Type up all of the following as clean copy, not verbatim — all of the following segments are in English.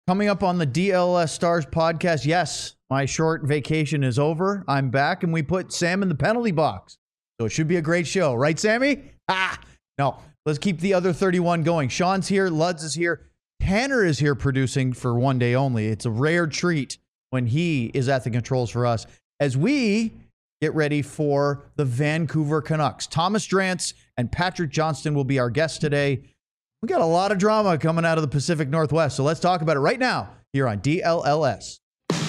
Coming up on the DLS Stars podcast, yes, my short vacation is over. I'm back, and we put Sam in the penalty box. So it should be a great show. Right, Sammy? No. Let's keep the other 31 going. Sean's here. Luds is here. Tanner is here producing for one day only. It's a rare treat when he is at the controls for us as we get ready for the Vancouver Canucks. Thomas Drance and Patrick Johnston will be our guests today. We got a lot of drama coming out of the Pacific Northwest, so let's talk about it right now here on DLLS.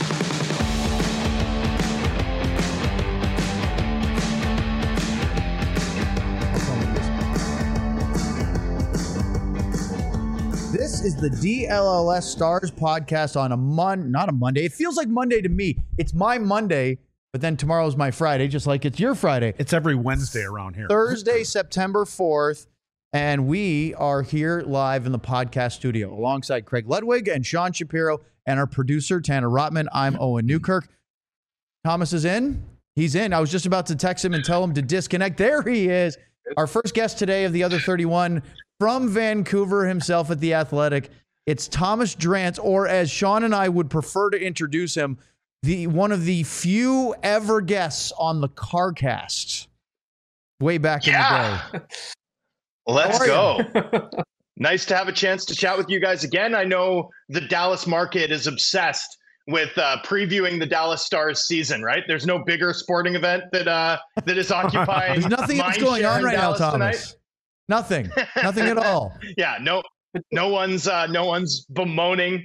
This is the DLLS Stars podcast on not a Monday. It feels like Monday to me. It's my Monday, but then tomorrow's my Friday, just like it's your Friday. It's every Wednesday around here. Thursday, September 4th. And we are here live in the podcast studio alongside Craig Ludwig and Sean Shapiro and our producer, Tanner Rotman. I'm Owen Newkirk. Thomas is in. He's in. I was just about to text him and tell him to disconnect. There he is. Our first guest today of the other 31 from Vancouver himself at The Athletic. It's Thomas Drance, or as Sean and I would prefer to introduce him, one of the few ever guests on the CarCast way back in the day. Let's go. Nice to have a chance to chat with you guys again. I know the Dallas market is obsessed with previewing the Dallas Stars season, right? There's no bigger sporting event that is occupying. There's nothing that's going on right now, Thomas. Nothing at all. Yeah, no one's bemoaning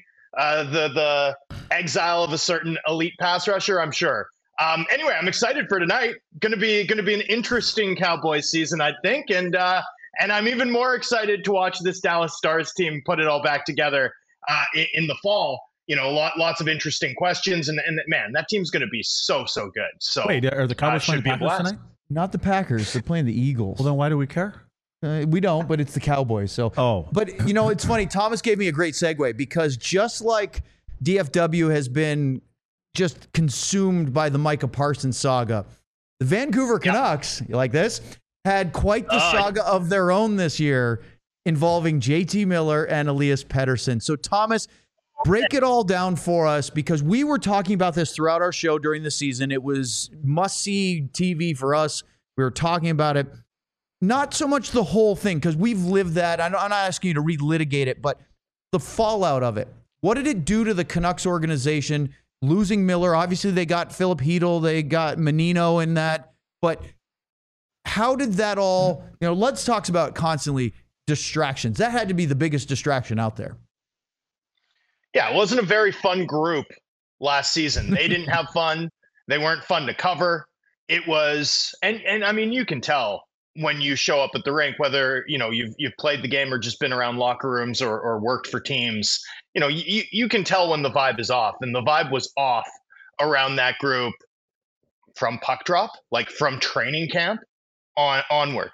the exile of a certain elite pass rusher, I'm sure. Anyway, I'm excited for tonight. Going to be an interesting Cowboys season, I think, and I'm even more excited to watch this Dallas Stars team put it all back together in the fall. You know, lots of interesting questions, and man, that team's going to be so good. So wait, are the Cowboys playing the Packers tonight? Not the Packers. They're playing the Eagles. Well, then why do we care? We don't, but it's the Cowboys. So, But you know, it's funny. Thomas gave me a great segue because just like DFW has been just consumed by the Micah Parsons saga, the Vancouver Canucks, you like this, had quite the saga of their own this year involving JT Miller and Elias Pettersson. So, Thomas, break it all down for us because we were talking about this throughout our show during the season. It was must-see TV for us. We were talking about it. Not so much the whole thing because we've lived that. I'm not asking you to relitigate it, but the fallout of it. What did it do to the Canucks organization? Losing Miller, obviously they got Philip Hedl, they got Menino in that, but how did that all, Lutz talks about constantly distractions. That had to be the biggest distraction out there. Yeah, it wasn't a very fun group last season. They didn't have fun. They weren't fun to cover. It was, and I mean, you can tell when you show up at the rink, whether, you've played the game or just been around locker rooms or worked for teams, you can tell when the vibe is off, and the vibe was off around that group from puck drop, like from training camp onward.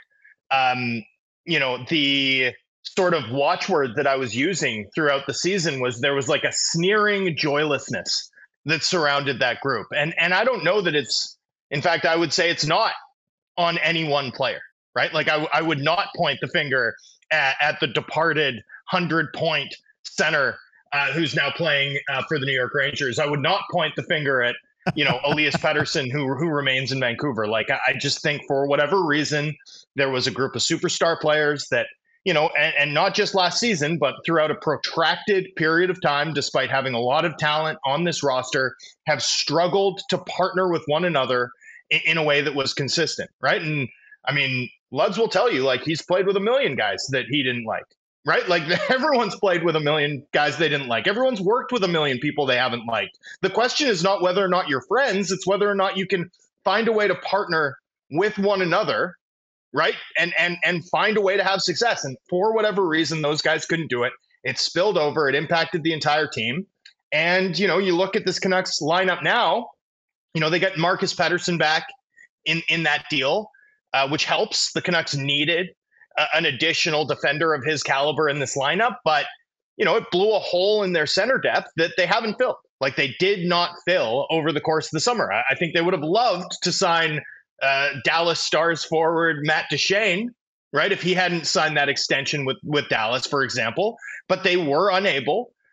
The sort of watchword that I was using throughout the season was there was like a sneering joylessness that surrounded that group. And I don't know that in fact, I would say it's not on any one player, right? Like I would not point the finger at the departed 100-point center who's now playing for the New York Rangers. I would not point the finger at, Elias Pettersson, who remains in Vancouver. Like, I just think for whatever reason, there was a group of superstar players that, and not just last season, but throughout a protracted period of time, despite having a lot of talent on this roster, have struggled to partner with one another in a way that was consistent, right? And I mean, Luds will tell you, like, he's played with a million guys that he didn't like, right? Like, everyone's played with a million guys they didn't like. Everyone's worked with a million people they haven't liked. The question is not whether or not you're friends, it's whether or not you can find a way to partner with one another, right? And find a way to have success. And for whatever reason, those guys couldn't do it. It spilled over. It impacted the entire team. And, you look at this Canucks lineup now, they got Marcus Pettersson back in that deal, which helps. The Canucks needed an additional defender of his caliber in this lineup, but it blew a hole in their center depth that they haven't filled. Like, they did not fill over the course of the summer. I think they would have loved to sign Dallas Stars forward Matt Duchene, right? If he hadn't signed that extension with Dallas, for example, but they were unable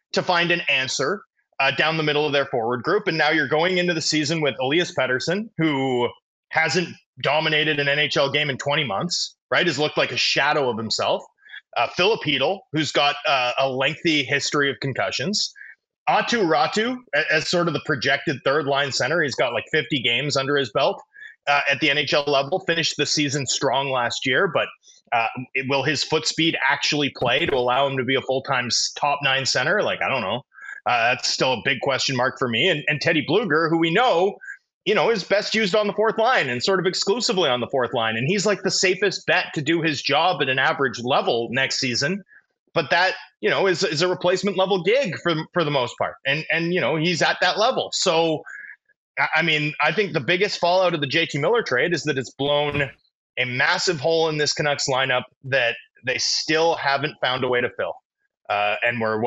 to find an answer down the middle of their forward group. And now you're going into the season with Elias Pettersson, who hasn't dominated an NHL game in 20 months, right? Has looked like a shadow of himself. Filip Chytil, who's got a lengthy history of concussions. Aatu Räty, as sort of the projected third-line center. He's got like 50 games under his belt at the NHL level. Finished the season strong last year, but will his foot speed actually play to allow him to be a full-time top 9 center? Like, I don't know. That's still a big question mark for me. And Teddy Bluger, who we know, is best used on the fourth line and sort of exclusively on the fourth line. And he's like the safest bet to do his job at an average level next season. But that, is a replacement level gig for the most part. And he's at that level. So, I mean, I think the biggest fallout of the JT Miller trade is that it's blown a massive hole in this Canucks lineup that they still haven't found a way to fill. And we're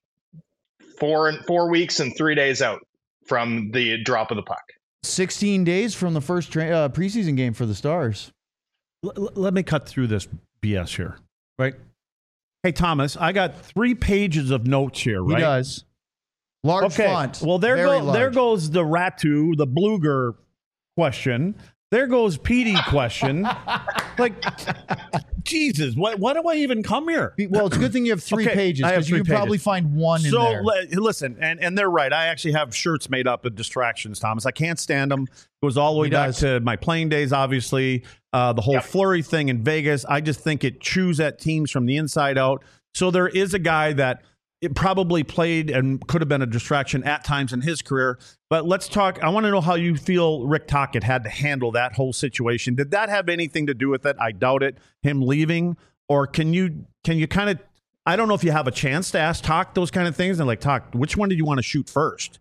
4 weeks and 3 days out from the drop of the puck. 16 days from the first preseason game for the Stars. Let me cut through this BS here, right? Hey, Thomas, I got 3 pages of notes here, right? He does. Large font. Well, there goes the Räty, the Bluger question. There goes Petey question. Like, Jesus, why do I even come here? Well, it's a good thing you have 3 pages because you can probably find one in there. So, listen, and they're right. I actually have shirts made up of distractions, Thomas. I can't stand them. It goes all the way back to my playing days, obviously. The whole Fleury thing in Vegas. I just think it chews at teams from the inside out. So there is a guy that it probably played and could have been a distraction at times in his career. But let's talk. I want to know how you feel Rick Tocchet had to handle that whole situation. Did that have anything to do with it? I doubt it. Him leaving, or can you kind of? I don't know if you have a chance to ask Toc those kind of things. And like, Toc, which one did you want to shoot first?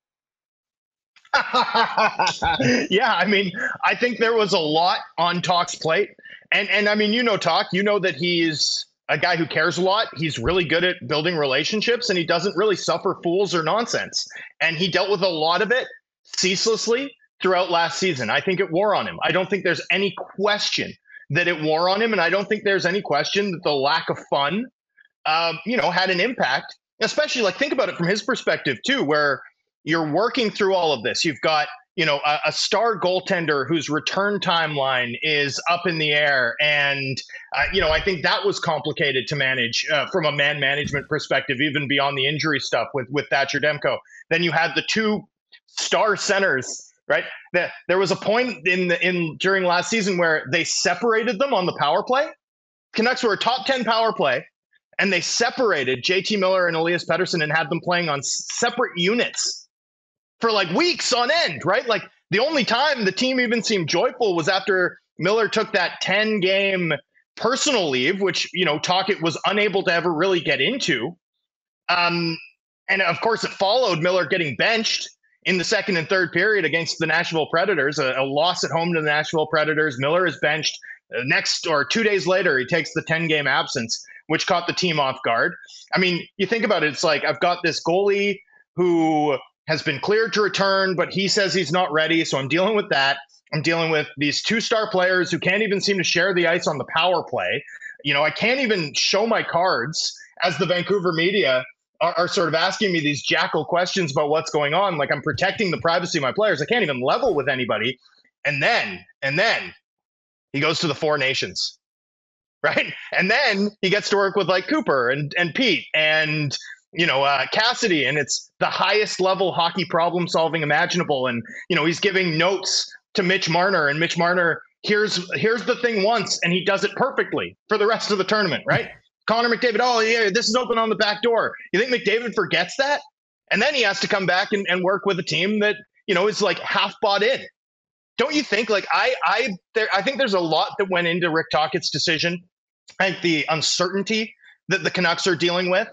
Yeah, I mean, I think there was a lot on Toc's plate, and I mean, Toc, that he's a guy who cares a lot. He's really good at building relationships, and he doesn't really suffer fools or nonsense. And he dealt with a lot of it ceaselessly throughout last season. I think it wore on him. I don't think there's any question that it wore on him, and I don't think there's any question that the lack of fun, had an impact. Especially, like, think about it from his perspective too, where you're working through all of this. You've got a star goaltender whose return timeline is up in the air. And, I think that was complicated to manage from a man management perspective, even beyond the injury stuff with Thatcher Demko. Then you had the 2 star centers, right? There was a point during last season where they separated them on the power play. Canucks were a top 10 power play, and they separated JT Miller and Elias Pettersson and had them playing on separate units for like weeks on end, right? Like the only time the team even seemed joyful was after Miller took that 10-game personal leave, which, Tocchet was unable to ever really get into. And of course it followed Miller getting benched in the second and third period against the Nashville Predators, a loss at home to the Nashville Predators. Miller is benched. Next or 2 days later, he takes the 10-game absence, which caught the team off guard. I mean, you think about it, it's like I've got this goalie who has been cleared to return, but he says he's not ready. So I'm dealing with that. I'm dealing with these 2-star players who can't even seem to share the ice on the power play. I can't even show my cards as the Vancouver media are sort of asking me these jackal questions about what's going on. Like, I'm protecting the privacy of my players. I can't even level with anybody. And then he goes to the 4 Nations, right? And then he gets to work with like Cooper and Pete and Cassidy, and it's the highest level hockey problem solving imaginable. And, he's giving notes to Mitch Marner, and Mitch Marner here's the thing once, and he does it perfectly for the rest of the tournament, right? Connor McDavid, oh yeah, this is open on the back door. You think McDavid forgets that? And then he has to come back and work with a team that, is like half bought in. Don't you think? Like I think there's a lot that went into Rick Tocchet's decision. I think the uncertainty that the Canucks are dealing with,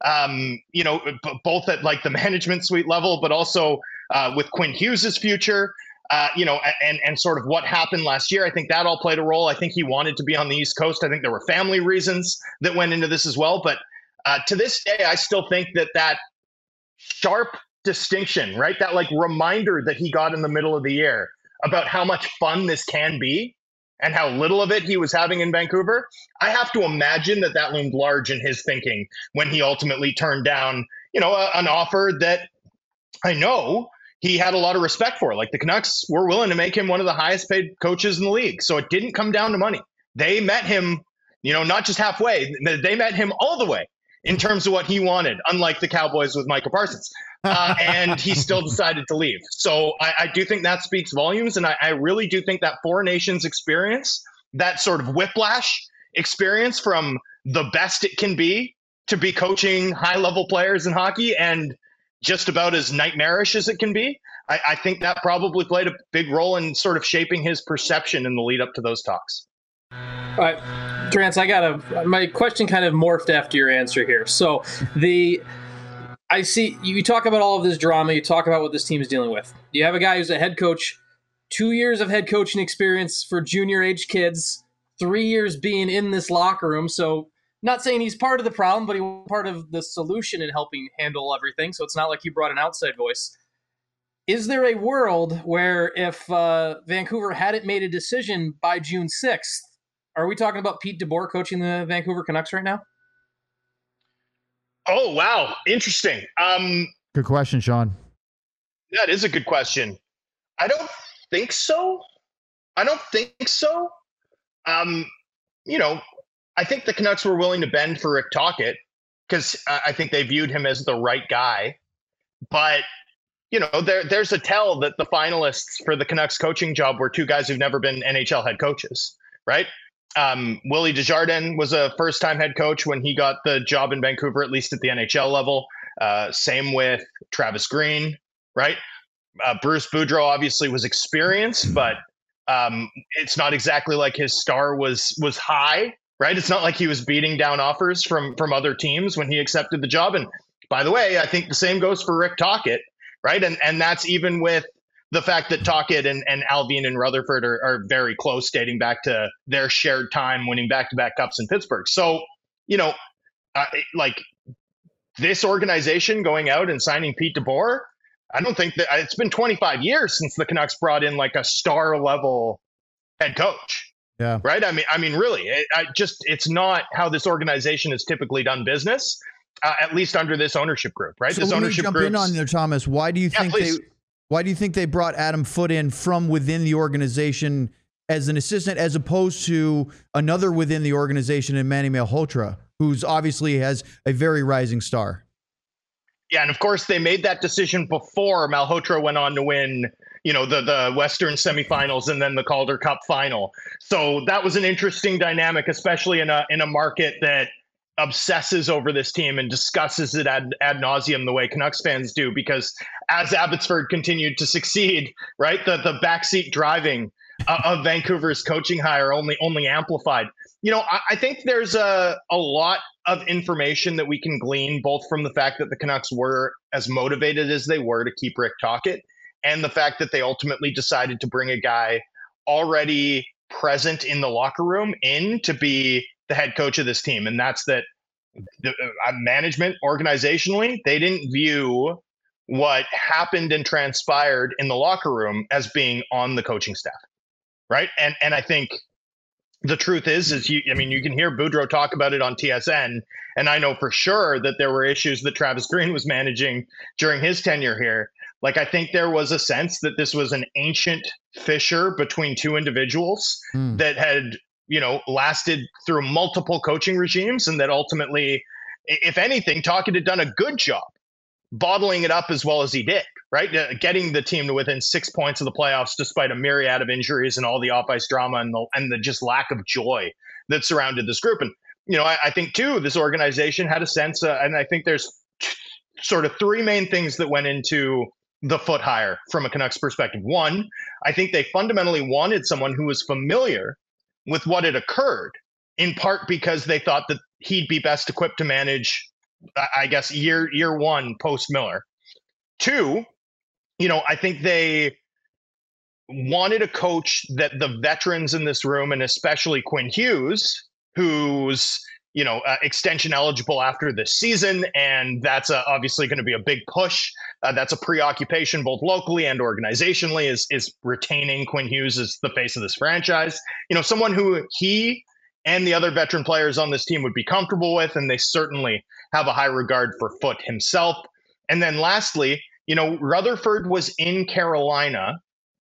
both at like the management suite level, but also with Quinn Hughes's future, and sort of what happened last year. I think that all played a role. I think he wanted to be on the East Coast. I think there were family reasons that went into this as well. But to this day, I still think that sharp distinction, right? That like reminder that he got in the middle of the year about how much fun this can be and how little of it he was having in Vancouver. I have to imagine that loomed large in his thinking when he ultimately turned down, an offer that I know he had a lot of respect for. Like the Canucks were willing to make him one of the highest paid coaches in the league. So it didn't come down to money. They met him, not just halfway, they met him all the way in terms of what he wanted, unlike the Cowboys with Micah Parsons. And he still decided to leave. So I do think that speaks volumes. And I really do think that Four Nations experience, that sort of whiplash experience from the best it can be to be coaching high-level players in hockey and just about as nightmarish as it can be, I think that probably played a big role in sort of shaping his perception in the lead up to those talks. All right, Trance, my question kind of morphed after your answer here. So I see you talk about all of this drama. You talk about what this team is dealing with. You have a guy who's a head coach, 2 years of head coaching experience for junior age kids, 3 years being in this locker room. So not saying he's part of the problem, but he was part of the solution in helping handle everything. So it's not like he brought an outside voice. Is there a world where if Vancouver hadn't made a decision by June 6th, are we talking about Pete DeBoer coaching the Vancouver Canucks right now? Oh, wow. Interesting. Good question, Sean. That is a good question. I don't think so. I think the Canucks were willing to bend for Rick Tocchet because I think they viewed him as the right guy. But, there's a tell that the finalists for the Canucks coaching job were two guys who've never been NHL head coaches, right? Willie Desjardins was a first-time head coach when he got the job in Vancouver, at least at the NHL level. Same with Travis Green, right? Bruce Boudreau obviously was experienced, but it's not exactly like his star was high, right? It's not like he was beating down offers from other teams when he accepted the job. And by the way, I think the same goes for Rick Tocchet, right? And that's even with the fact that Tocchet and Alvin and Rutherford are very close, dating back to their shared time winning back-to-back cups in Pittsburgh. So, like this organization going out and signing Pete DeBoer, I don't think that it's been 25 years since the Canucks brought in like a star level head coach. Yeah. Right. I mean, really, it's not how this organization has typically done business, at least under this ownership group. Right. So this ownership jump in on there, Thomas. Why do you think they brought Adam Foote in from within the organization as an assistant, as opposed to another within the organization in Manny Malhotra, who's obviously has a very rising star? Yeah, and of course they made that decision before Malhotra went on to win, the Western semifinals and then the Calder Cup final. So that was an interesting dynamic, especially in a market that obsesses over this team and discusses it ad nauseum the way Canucks fans do, because as Abbotsford continued to succeed, right, the backseat driving of Vancouver's coaching hire only amplified. I think there's a lot of information that we can glean both from the fact that the Canucks were as motivated as they were to keep Rick Tocchet and the fact that they ultimately decided to bring a guy already present in the locker room in to be the head coach of this team. And that's that the management organizationally, they didn't view what happened and transpired in the locker room as being on the coaching staff. Right. And I think the truth is you can hear Boudreau talk about it on TSN. And I know for sure that there were issues that Travis Green was managing during his tenure here. Like, I think there was a sense that this was an ancient fissure between two individuals that had, lasted through multiple coaching regimes, and that ultimately, if anything, Tocchet had done a good job bottling it up as well as he did, right? Getting the team to within 6 points of the playoffs, despite a myriad of injuries and all the off-ice drama and the just lack of joy that surrounded this group. And, I think too, this organization had a sense, and I think there's sort of three main things that went into the Foote hire from a Canucks perspective. One, I think they fundamentally wanted someone who was familiar with what had occurred, in part because they thought that he'd be best equipped to manage, I guess, year one post Miller. Two, I think they wanted a coach that the veterans in this room, and especially Quinn Hughes, who's extension eligible after this season, and that's obviously going to be a big push. That's a preoccupation both locally and organizationally, is retaining Quinn Hughes as the face of this franchise. Someone who he and the other veteran players on this team would be comfortable with, and they certainly have a high regard for Foote himself. And then lastly, Rutherford was in Carolina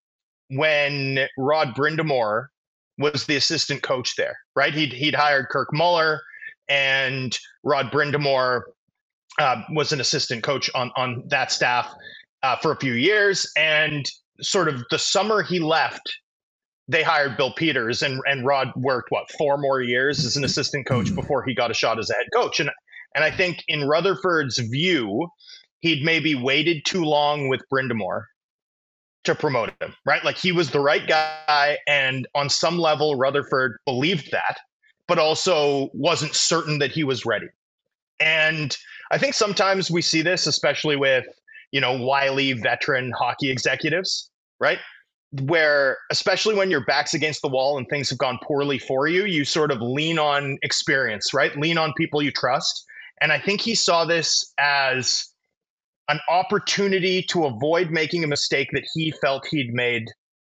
when Rod Brind'Amour was the assistant coach there, right? He'd hired Kirk Muller, and Rod Brind'Amour was an assistant coach on that staff for a few years. And sort of the summer he left, they hired Bill Peters, and Rod worked 4 more years as an assistant coach before he got a shot as a head coach. And I think in Rutherford's view, he'd maybe waited too long with Brind'Amour to promote him, right? Like, he was the right guy, and on some level, Rutherford believed that, but also wasn't certain that he was ready. And I think sometimes we see this, especially with, wily veteran hockey executives, right? Where, especially when your back's against the wall and things have gone poorly for you, you sort of lean on experience, right? Lean on people you trust. And I think he saw this as an opportunity to avoid making a mistake that he felt he'd made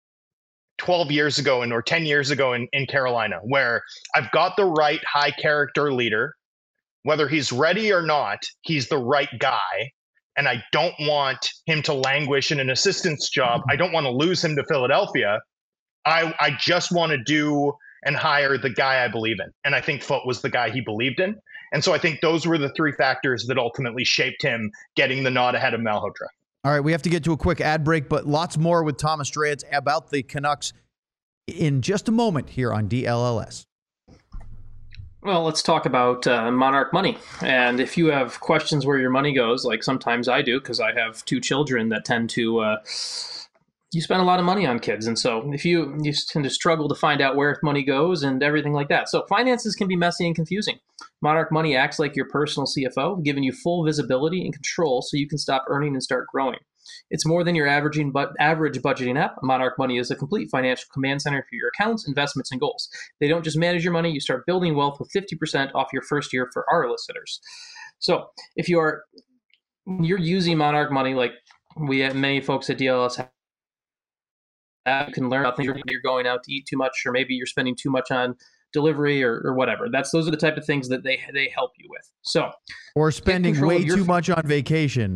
12 years ago or 10 years ago in Carolina, where I've got the right high character leader. Whether he's ready or not, he's the right guy. And I don't want him to languish in an assistant's job. I don't want to lose him to Philadelphia. I just want to do and hire the guy I believe in. And I think Foote was the guy he believed in. And so I think those were the 3 factors that ultimately shaped him getting the nod ahead of Malhotra. All right, we have to get to a quick ad break, but lots more with Thomas Drance about the Canucks in just a moment here on DLLS. Well, let's talk about Monarch Money. And if you have questions where your money goes, like sometimes I do, because I have 2 children that tend to, you spend a lot of money on kids. And so if you tend to struggle to find out where money goes and everything like that. So finances can be messy and confusing. Monarch Money acts like your personal CFO, giving you full visibility and control so you can stop earning and start growing. It's more than your average budgeting app. Monarch Money is a complete financial command center for your accounts, investments, and goals. They don't just manage your money, you start building wealth with 50% off your first year for our listeners. So if you're using Monarch Money, like we have many folks at DLS you can learn about things. You're going out to eat too much, or maybe you're spending too much on delivery or whatever. Those are the type of things that they help you with. So, or spending way too much on vacation.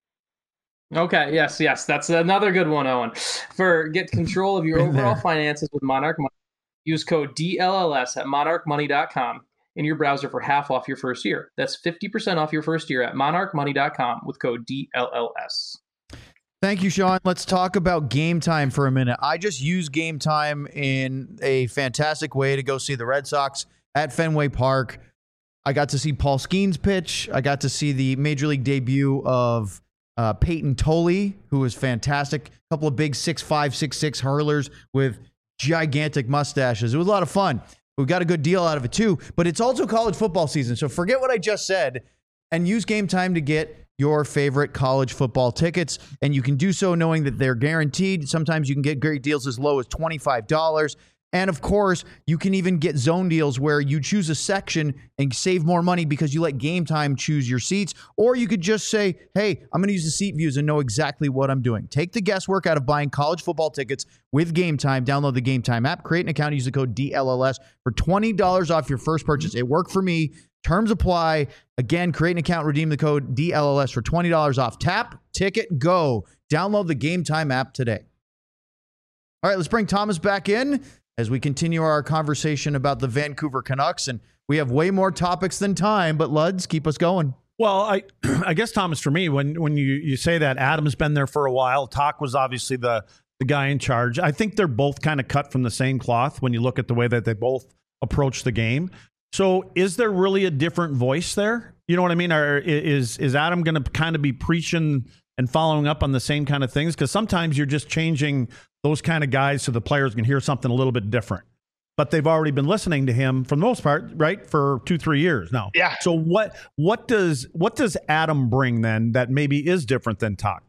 Okay. Yes. That's another good one, Owen. Get control of your overall finances with Monarch Money. Use code DLLS at monarchmoney.com in your browser for half off your first year. That's 50% off your first year at monarchmoney.com with code DLLS. Thank you, Sean. Let's talk about Game Time for a minute. I just used Game Time in a fantastic way to go see the Red Sox at Fenway Park. I got to see Paul Skeens pitch. I got to see the Major League debut of Peyton Tolley, who was fantastic. A couple of big 6'5", 6'6" hurlers with gigantic mustaches. It was a lot of fun. We got a good deal out of it too, but it's also college football season. So forget what I just said and use Game Time to get your favorite college football tickets. And you can do so knowing that they're guaranteed. Sometimes you can get great deals as low as $25. And of course, you can even get zone deals where you choose a section and save more money because you let Game Time choose your seats. Or you could just say, hey, I'm going to use the seat views and know exactly what I'm doing. Take the guesswork out of buying college football tickets with Game Time. Download the Game Time app, create an account, use the code DLLS for $20 off your first purchase. It worked for me. Terms apply. Again, create an account, redeem the code DLLS for $20 off. Tap, ticket, go. Download the Game Time app today. All right, let's bring Thomas back in as we continue our conversation about the Vancouver Canucks. And we have way more topics than time, but Luds, keep us going. Well, I guess, Thomas, for me, when you say that, Adam's been there for a while. Talk was obviously the guy in charge. I think they're both kind of cut from the same cloth when you look at the way that they both approach the game. So is there really a different voice there? You know what I mean? Or is Adam going to kind of be preaching and following up on the same kind of things? Because sometimes you're just changing those kind of guys so the players can hear something a little bit different. But they've already been listening to him for the most part, right, for 2-3 years now. Yeah. So what does Adam bring then that maybe is different than Talk?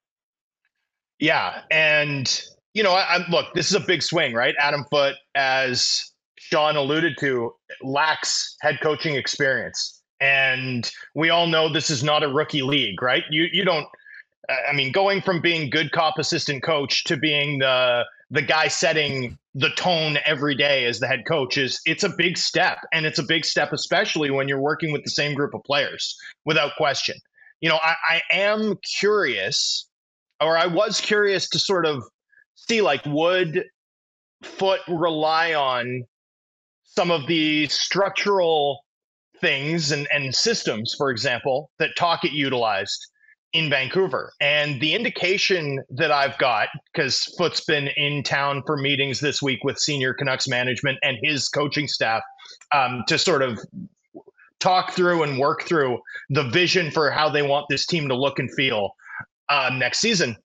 Yeah, and look, this is a big swing, right? Adam Foote, as Sean alluded to, lacks head coaching experience, and we all know this is not a rookie league, right? You don't. I mean, going from being good cop assistant coach to being the the guy setting the tone every day as the head coach it's a big step. And it's a big step, especially when you're working with the same group of players, without question. I am curious, or I was curious to sort of see, like, would Foote rely on some of the structural things and systems, for example, that Tocchet utilized in Vancouver. And the indication that I've got, because Foote's been in town for meetings this week with senior Canucks management and his coaching staff to sort of talk through and work through the vision for how they want this team to look and feel next season.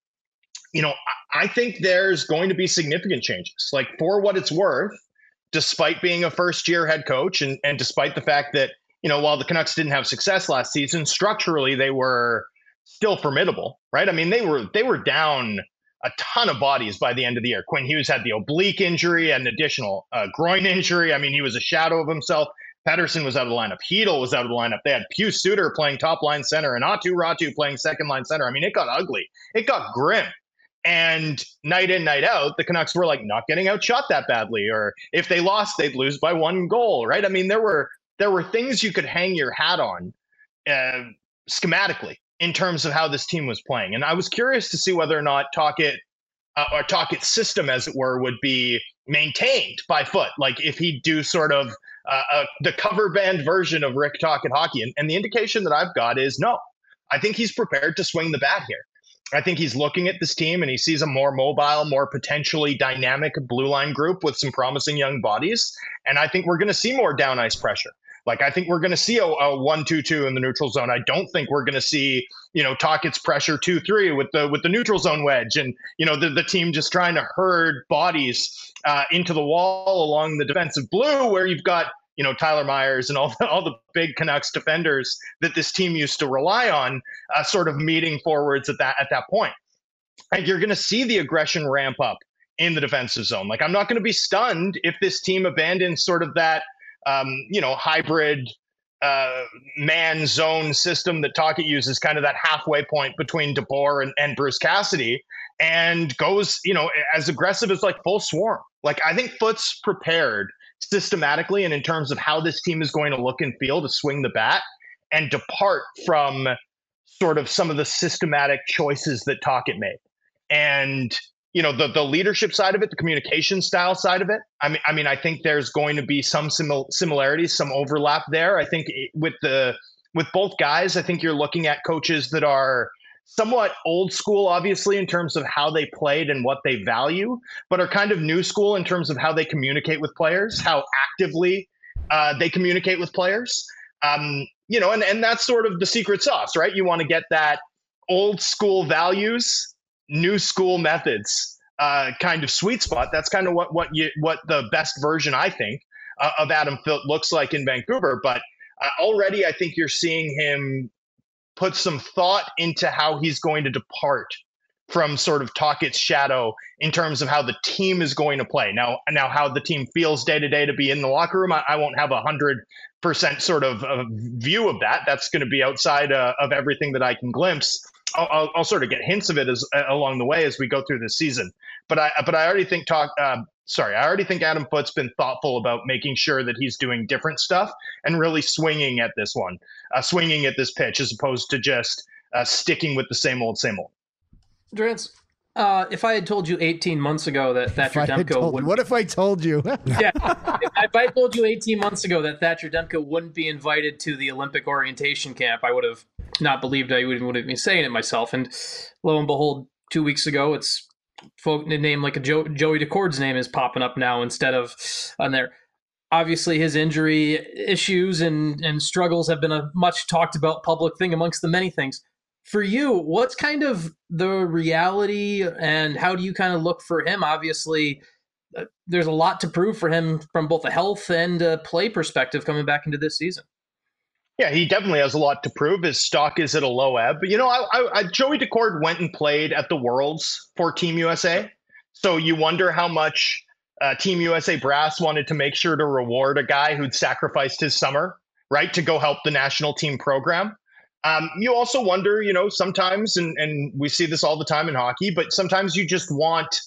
I think there's going to be significant changes. Like, for what it's worth, despite being a first-year head coach and despite the fact that, while the Canucks didn't have success last season, structurally they were still formidable, right? I mean, they were down a ton of bodies by the end of the year. Quinn Hughes had the oblique injury, an additional groin injury. I mean, he was a shadow of himself. Pettersson was out of the lineup. Hedl was out of the lineup. They had Pius Suter playing top line center and Aatu Räty playing second line center. I mean, it got ugly. It got grim. And night in, night out, the Canucks were like not getting outshot that badly. Or if they lost, they'd lose by 1 goal, right? I mean, there were things you could hang your hat on schematically in terms of how this team was playing. And I was curious to see whether or not Tocchet or Tocchet's system, as it were, would be maintained by Foote. Like, if he'd do sort of the cover band version of Rick Tocchet hockey. And the indication that I've got is no. I think he's prepared to swing the bat here. I think he's looking at this team and he sees a more mobile, more potentially dynamic blue line group with some promising young bodies. And I think we're going to see more down ice pressure. Like, I think we're going to see a 1-2-2 in the neutral zone. I don't think we're going to see, Tocchet's pressure 2-3 with the neutral zone wedge and, the team just trying to herd bodies into the wall along the defensive blue, where you've got, Tyler Myers and all the big Canucks defenders that this team used to rely on, sort of meeting forwards at that point. And you're going to see the aggression ramp up in the defensive zone. Like, I'm not going to be stunned if this team abandons sort of that, hybrid man zone system that Tocchet uses, kind of that halfway point between DeBoer and Bruce Cassidy, and goes, as aggressive as like full swarm. Like, I think Foote's prepared systematically and in terms of how this team is going to look and feel to swing the bat and depart from sort of some of the systematic choices that Tocchet made. And, the leadership side of it, the communication style side of it. I mean, I think there's going to be some similarities, some overlap there. I think with both guys, I think you're looking at coaches that are somewhat old school, obviously, in terms of how they played and what they value, but are kind of new school in terms of how they communicate with players, how actively they communicate with players. And that's sort of the secret sauce, right? You want to get that old school values, new school methods kind of sweet spot. That's kind of what the best version, I think, of Adam Foote looks like in Vancouver. But already I think you're seeing him put some thought into how he's going to depart from sort of Tocchet's shadow in terms of how the team is going to play. Now how the team feels day to day to be in the locker room, I won't have 100% sort of view of that. That's going to be outside of everything that I can glimpse. I'll sort of get hints of it along the way as we go through this season. But I already think Adam Foote's been thoughtful about making sure that he's doing different stuff and really swinging at this pitch, as opposed to just sticking with the same old. Drance, if I had told you 18 months ago that Thatcher Demko would... What if I told you? Yeah, if I told you 18 months ago that Thatcher Demko wouldn't be invited to the Olympic orientation camp, I would have not believed I would have been saying it myself. And lo and behold, 2 weeks ago, it's a name like Joey Decord's name is popping up now instead of on there. Obviously, his injury issues and struggles have been a much talked about public thing amongst the many things. For you, what's kind of the reality and how do you kind of look for him? Obviously, there's a lot to prove for him from both a health and play perspective coming back into this season. Yeah, he definitely has a lot to prove. His stock is at a low ebb. But, Joey Decord went and played at the Worlds for Team USA. So you wonder how much Team USA brass wanted to make sure to reward a guy who'd sacrificed his summer, right, to go help the national team program. You also wonder, sometimes, and we see this all the time in hockey, but sometimes you just want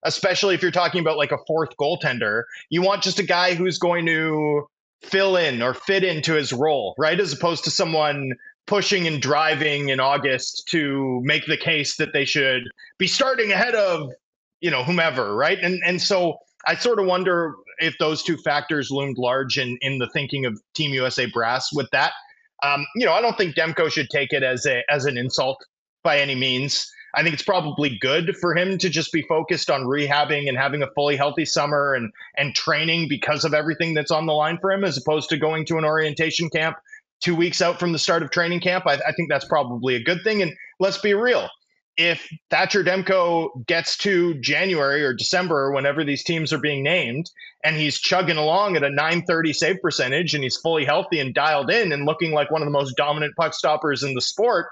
especially if you're talking about like a fourth goaltender. You want just a guy who's going to fill in or fit into his role, right? As opposed to someone pushing and driving in August to make the case that they should be starting ahead of, whomever, right? And so I sort of wonder if those two factors loomed large in the thinking of Team USA brass with that. I don't think Demko should take it as an insult by any means. I think it's probably good for him to just be focused on rehabbing and having a fully healthy summer and training because of everything that's on the line for him, as opposed to going to an orientation camp 2 weeks out from the start of training camp. I think that's probably a good thing. And let's be real. If Thatcher Demko gets to January or December, or whenever these teams are being named, and he's chugging along at a .930 save percentage and he's fully healthy and dialed in and looking like one of the most dominant puck stoppers in the sport,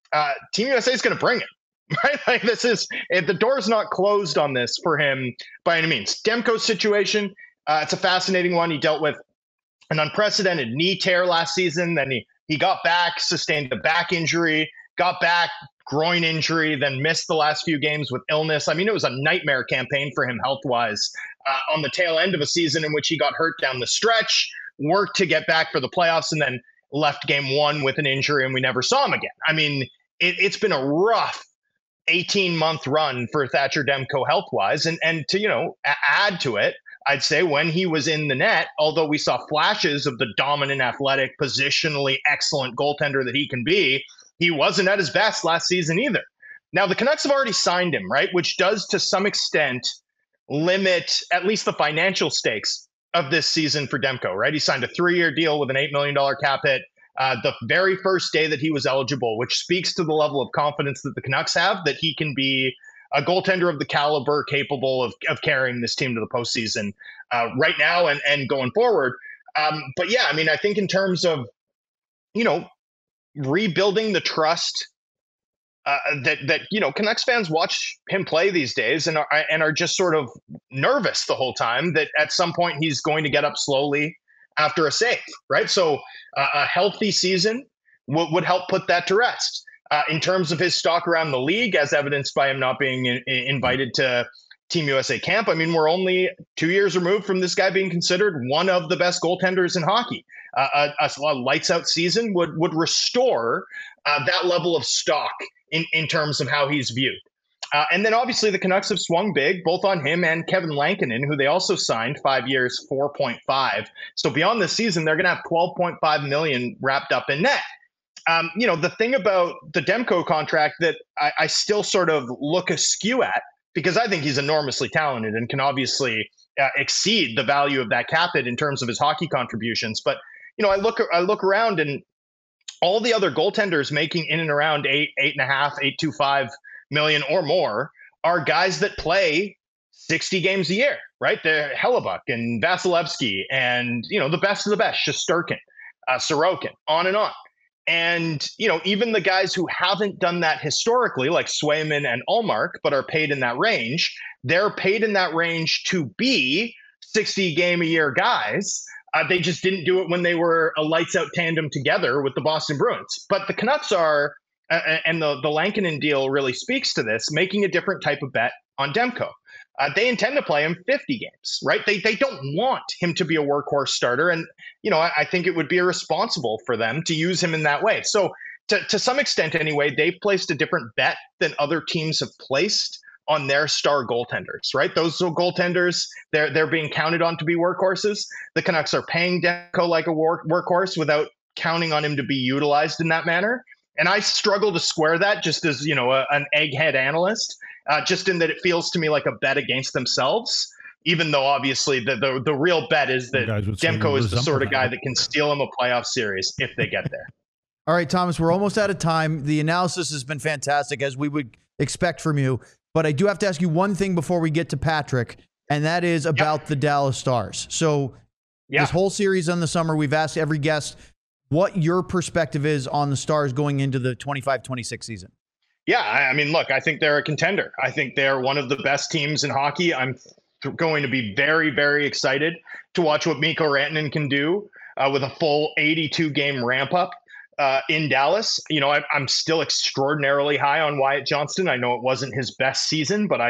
Team USA is going to bring it. Right? Like the door's not closed on this for him by any means. Demko's situation, it's a fascinating one. He dealt with an unprecedented knee tear last season. Then he got back, sustained a back injury, got back, groin injury, then missed the last few games with illness. I mean, it was a nightmare campaign for him health-wise on the tail end of a season in which he got hurt down the stretch, worked to get back for the playoffs, and then left game one with an injury, and we never saw him again. I mean, it's been a rough 18-month run for Thatcher Demko health-wise. And to, add to it, I'd say when he was in the net, although we saw flashes of the dominant, athletic, positionally excellent goaltender that he can be, he wasn't at his best last season either. Now, the Canucks have already signed him, right? Which does, to some extent, limit at least the financial stakes of this season for Demko, right? He signed a 3-year deal with an $8 million cap hit the very first day that he was eligible, which speaks to the level of confidence that the Canucks have that he can be a goaltender of the caliber capable of carrying this team to the postseason right now and going forward. But yeah, I mean, I think in terms of, rebuilding the trust that Canucks fans watch him play these days and are just sort of nervous the whole time that at some point he's going to get up slowly after a save, right? So a healthy season would help put that to rest. In terms of his stock around the league, as evidenced by him not being invited to Team USA camp, I mean, we're only 2 years removed from this guy being considered one of the best goaltenders in hockey. A lights out season would restore that level of stock in terms of how he's viewed. And then obviously the Canucks have swung big, both on him and Kevin Lankinen, who they also signed 5 years, 4.5. So beyond this season, they're going to have $12.5 million wrapped up in net. The thing about the Demko contract that I still sort of look askew at, because I think he's enormously talented and can obviously exceed the value of that cap hit in terms of his hockey contributions. But, I look around and all the other goaltenders making in and around $8.5 million or more are guys that play 60 games a year, right? They're Hellebuyck and Vasilevsky and, the best of the best, Shesterkin, Sorokin, on and on. And, even the guys who haven't done that historically, like Swayman and Ullmark, but are paid in that range, they're paid in that range to be 60 game a year guys. They just didn't do it when they were a lights out tandem together with the Boston Bruins. But the Canucks are, and the Lankinen deal really speaks to this, making a different type of bet on Demko. They intend to play him 50 games, right? They don't want him to be a workhorse starter. And, I think it would be irresponsible for them to use him in that way. So to some extent anyway, they've placed a different bet than other teams have placed on their star goaltenders, right? Those goaltenders, they're being counted on to be workhorses. The Canucks are paying Demko like a workhorse without counting on him to be utilized in that manner. And I struggle to square that just as, an egghead analyst, just in that it feels to me like a bet against themselves, even though obviously the real bet is that Demko is the sort of guy that can steal him a playoff series if they get there. All right, Thomas, we're almost out of time. The analysis has been fantastic, as we would expect from you. But I do have to ask you one thing before we get to Patrick, and that is about the Dallas Stars. So this whole series on the summer, we've asked every guest what your perspective is on the Stars going into the 25-26 season. Yeah, I mean, look, I think they're a contender. I think they're one of the best teams in hockey. I'm going to be very, very excited to watch what Mikko Rantanen can do with a full 82-game ramp-up in Dallas. I'm still extraordinarily high on Wyatt Johnston. I know it wasn't his best season, but I think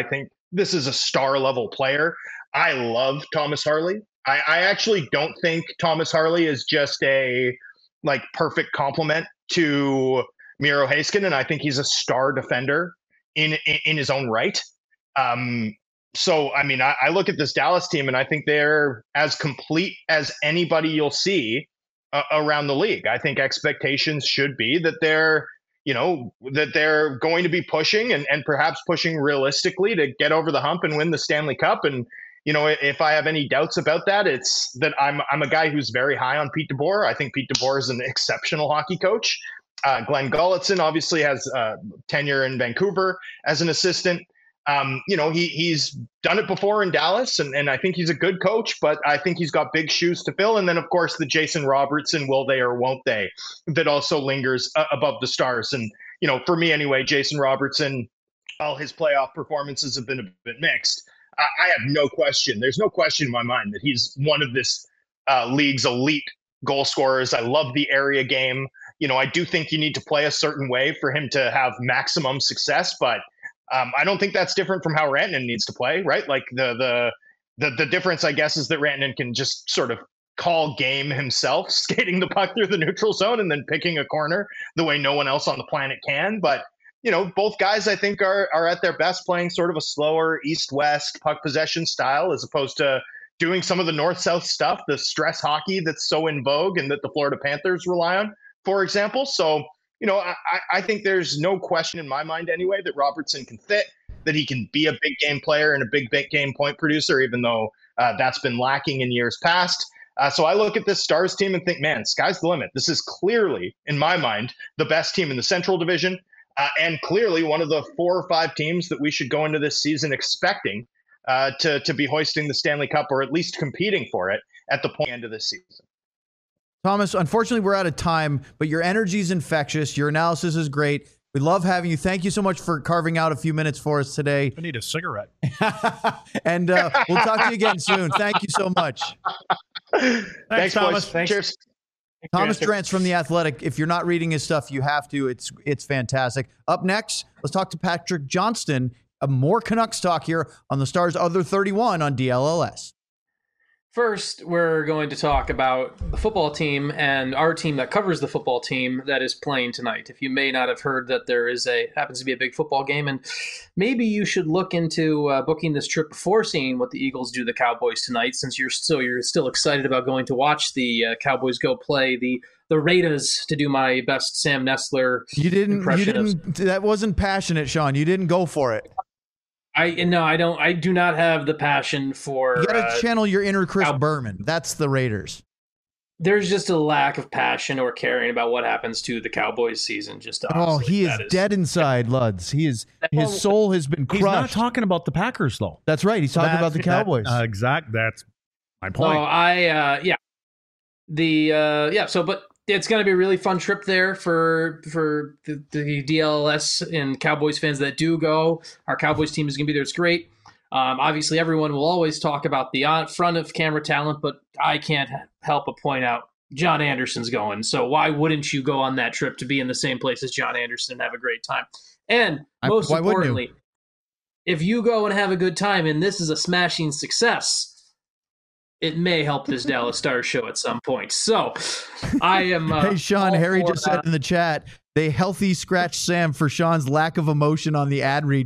this is a star level player. I love Thomas Harley. I actually don't think Thomas Harley is just a like perfect complement to Miro Heiskanen, and I think he's a star defender in his own right. So, I mean, I look at this Dallas team, and I think they're as complete as anybody you'll see around the league. I think expectations should be that they're going to be pushing and perhaps pushing realistically to get over the hump and win the Stanley Cup. And if I have any doubts about that, it's that I'm a guy who's very high on Pete DeBoer. I think Pete DeBoer is an exceptional hockey coach. Glenn Gulutzan obviously has tenure in Vancouver as an assistant. He's done it before in Dallas, and I think he's a good coach, but I think he's got big shoes to fill. And then, of course, the Jason Robertson, will they or won't they, that also lingers above the Stars. And, for me anyway, Jason Robertson, all his playoff performances have been a bit mixed. I have no question. There's no question in my mind that he's one of this league's elite goal scorers. I love the area game. I do think you need to play a certain way for him to have maximum success, but I don't think that's different from how Rantanen needs to play, right? Like the difference, I guess, is that Rantanen can just sort of call game himself, skating the puck through the neutral zone and then picking a corner the way no one else on the planet can. But both guys, I think, are at their best playing sort of a slower east-west puck possession style as opposed to doing some of the north-south stuff, the stress hockey that's so in vogue and that the Florida Panthers rely on, for example. So, I think there's no question in my mind anyway that Robertson can fit, that he can be a big game player and a big game point producer, even though that's been lacking in years past. So I look at this Stars team and think, man, sky's the limit. This is clearly, in my mind, the best team in the Central Division. And clearly one of the 4 or 5 teams that we should go into this season expecting to be hoisting the Stanley Cup, or at least competing for it at the end of this season. Thomas, unfortunately, we're out of time, but your energy is infectious. Your analysis is great. We love having you. Thank you so much for carving out a few minutes for us today. I need a cigarette. And we'll talk to you again soon. Thank you so much. Thanks, Thomas. Thanks. Cheers. Thomas Drance from The Athletic. If you're not reading his stuff, you have to. It's fantastic. Up next, let's talk to Patrick Johnston. More Canucks talk here on the Stars Other 31 on DLLS. First, we're going to talk about the football team and our team that covers the football team that is playing tonight. If you may not have heard that there happens to be a big football game, and maybe you should look into booking this trip before seeing what the Eagles do to the Cowboys tonight, since you're still excited about going to watch the Cowboys go play the Raiders, to do my best Sam Nestler impression. That wasn't passionate, Sean. You didn't go for it. I do not have the passion for. You got to channel your inner Chris Berman. That's the Raiders. There's just a lack of passion or caring about what happens to the Cowboys season. He is dead inside, Luds. His soul has been crushed. He's not talking about the Packers, though. That's right. He's talking about the Cowboys. Exactly. That's my point. But it's going to be a really fun trip there for the DLS and Cowboys fans that do go. Our Cowboys team is going to be there. It's great. Obviously, everyone will always talk about the front of camera talent, but I can't help but point out John Anderson's going. So why wouldn't you go on that trip to be in the same place as John Anderson and have a great time? And most importantly, if you go and have a good time and this is a smashing success, it may help this Dallas Stars show at some point. So I am. Hey, Sean, Harry just said in the chat, they healthy scratch Sam for Sean's lack of emotion on the ad read ?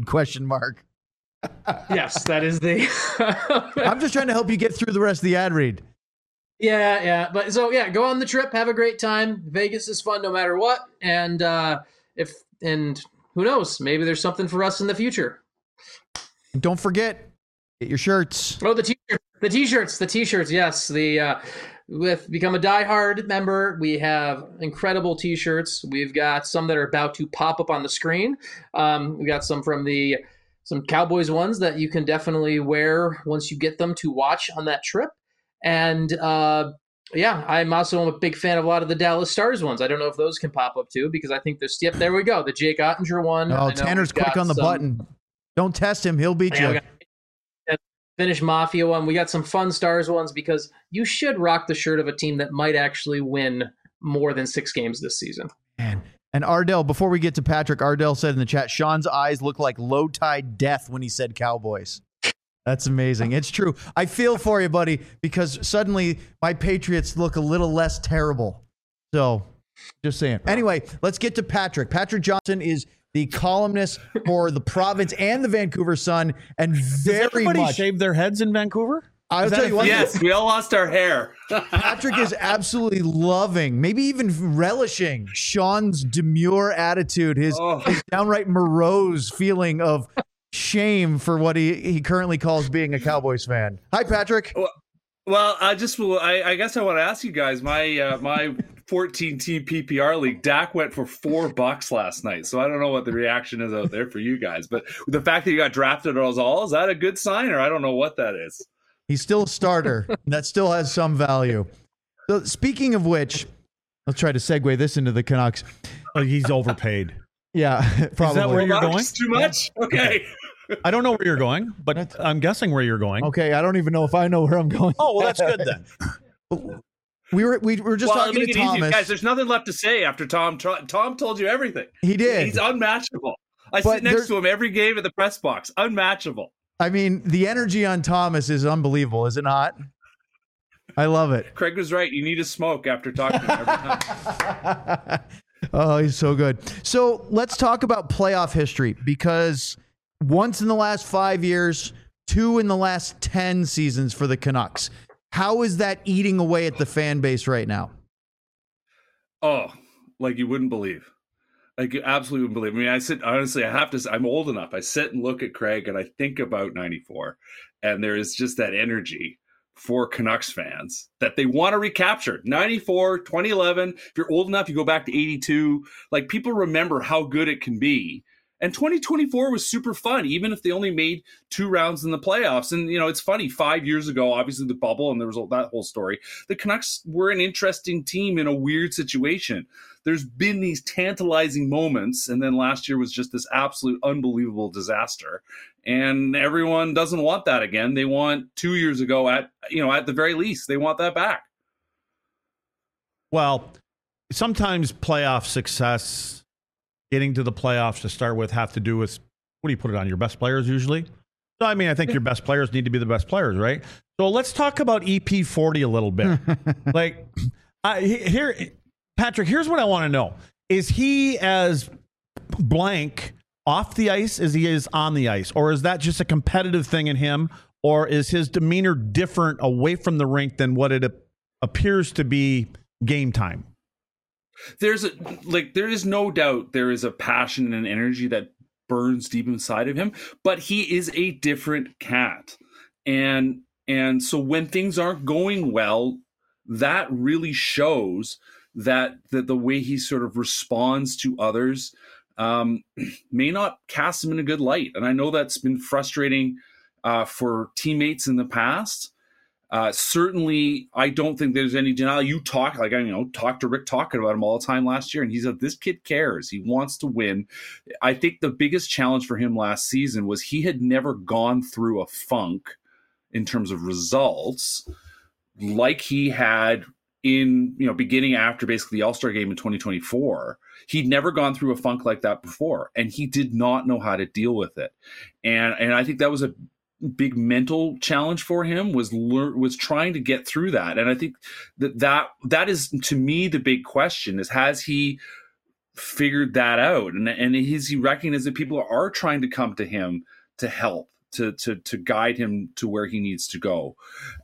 Yes, that is the. I'm just trying to help you get through the rest of the ad read. Yeah. But go on the trip. Have a great time. Vegas is fun no matter what. And who knows? Maybe there's something for us in the future. Don't forget, get your shirts. Oh, the t-shirts. Yes. With Become a diehard member, we have incredible t-shirts. We've got some that are about to pop up on the screen. We got some from some Cowboys ones that you can definitely wear once you get them to watch on that trip. And I'm also a big fan of a lot of the Dallas Stars ones. I don't know if those can pop up too, because I think there we go. The Jake Ottinger one. Oh, Tanner's quick on the button. Don't test him. He'll beat you. Finnish Mafia one. We got some fun Stars ones, because you should rock the shirt of a team that might actually win more than 6 games this season. Man, And Ardell, before we get to Patrick, Ardell said in the chat, Sean's eyes look like low tide death when he said Cowboys. That's amazing. It's true. I feel for you, buddy, because suddenly my Patriots look a little less terrible. So, just saying. Anyway, let's get to Patrick. Patrick Johnson is the columnist for the Province and the Vancouver Sun, and very Does everybody much shave their heads in Vancouver? I'll tell you what. Yes, we all lost our hair. Patrick is absolutely loving, maybe even relishing Sean's demure attitude, his downright morose feeling of shame for what he currently calls being a Cowboys fan. Hi, Patrick. Well, I guess I want to ask you guys. My 14-team PPR league, Dak went for $4 last night, so I don't know what the reaction is out there for you guys. But the fact that you got drafted as all, is that a good sign, or I don't know what that is? He's still a starter. That still has some value. So speaking of which, let's try to segue this into the Canucks. Oh, he's overpaid. Yeah, probably. Is that where you're going? Too much? Okay. I don't know where you're going, but I'm guessing where you're going. Okay, I don't even know if I know where I'm going. Oh, well, that's good then. We were just talking to Thomas. Easy. Guys, there's nothing left to say after Tom. Tom told you everything. He did. He's unmatchable. I sit next to him every game at the press box. Unmatchable. I mean, the energy on Thomas is unbelievable, is it not? I love it. Craig was right. You need a smoke after talking to him every time. Oh, he's so good. So let's talk about playoff history, because once in the last 5 years, 2 in the last 10 seasons for the Canucks. How is that eating away at the fan base right now? Oh, like you wouldn't believe. Like you absolutely wouldn't believe. I mean, I'm old enough. I sit and look at Craig and I think about 94, and there is just that energy for Canucks fans that they want to recapture. 94, 2011, if you're old enough, you go back to 82. Like, people remember how good it can be. And 2024 was super fun, even if they only made 2 rounds in the playoffs. And, it's funny, 5 years ago, obviously the bubble, and there was that whole story. The Canucks were an interesting team in a weird situation. There's been these tantalizing moments, and then last year was just this absolute unbelievable disaster. And everyone doesn't want that again. They want 2 years ago at the very least, they want that back. Well, sometimes playoff success, getting to the playoffs to start with, have to do with, what do you put it on, your best players usually? So, I mean, I think your best players need to be the best players, right? So let's talk about EP40 a little bit. Patrick, here's what I want to know. Is he as blank off the ice as he is on the ice? Or is that just a competitive thing in him? Or is his demeanor different away from the rink than what it appears to be game time? There is no doubt there is a passion and energy that burns deep inside of him, but he is a different cat. And so when things aren't going well, that really shows that the way he sort of responds to others may not cast him in a good light. And I know that's been frustrating for teammates in the past. Certainly, I don't think there's any denial. You talk to Rick talking about him all the time last year, and he said this kid cares. He wants to win. I think the biggest challenge for him last season was he had never gone through a funk in terms of results like he had in beginning after basically the All-Star game in 2024. He'd never gone through a funk like that before, and he did not know how to deal with it. And I think that was a big mental challenge for him, was trying to get through that. And I think that is, to me, the big question is, has he figured that out? And is he recognized that people are trying to come to him to help, to guide him to where he needs to go?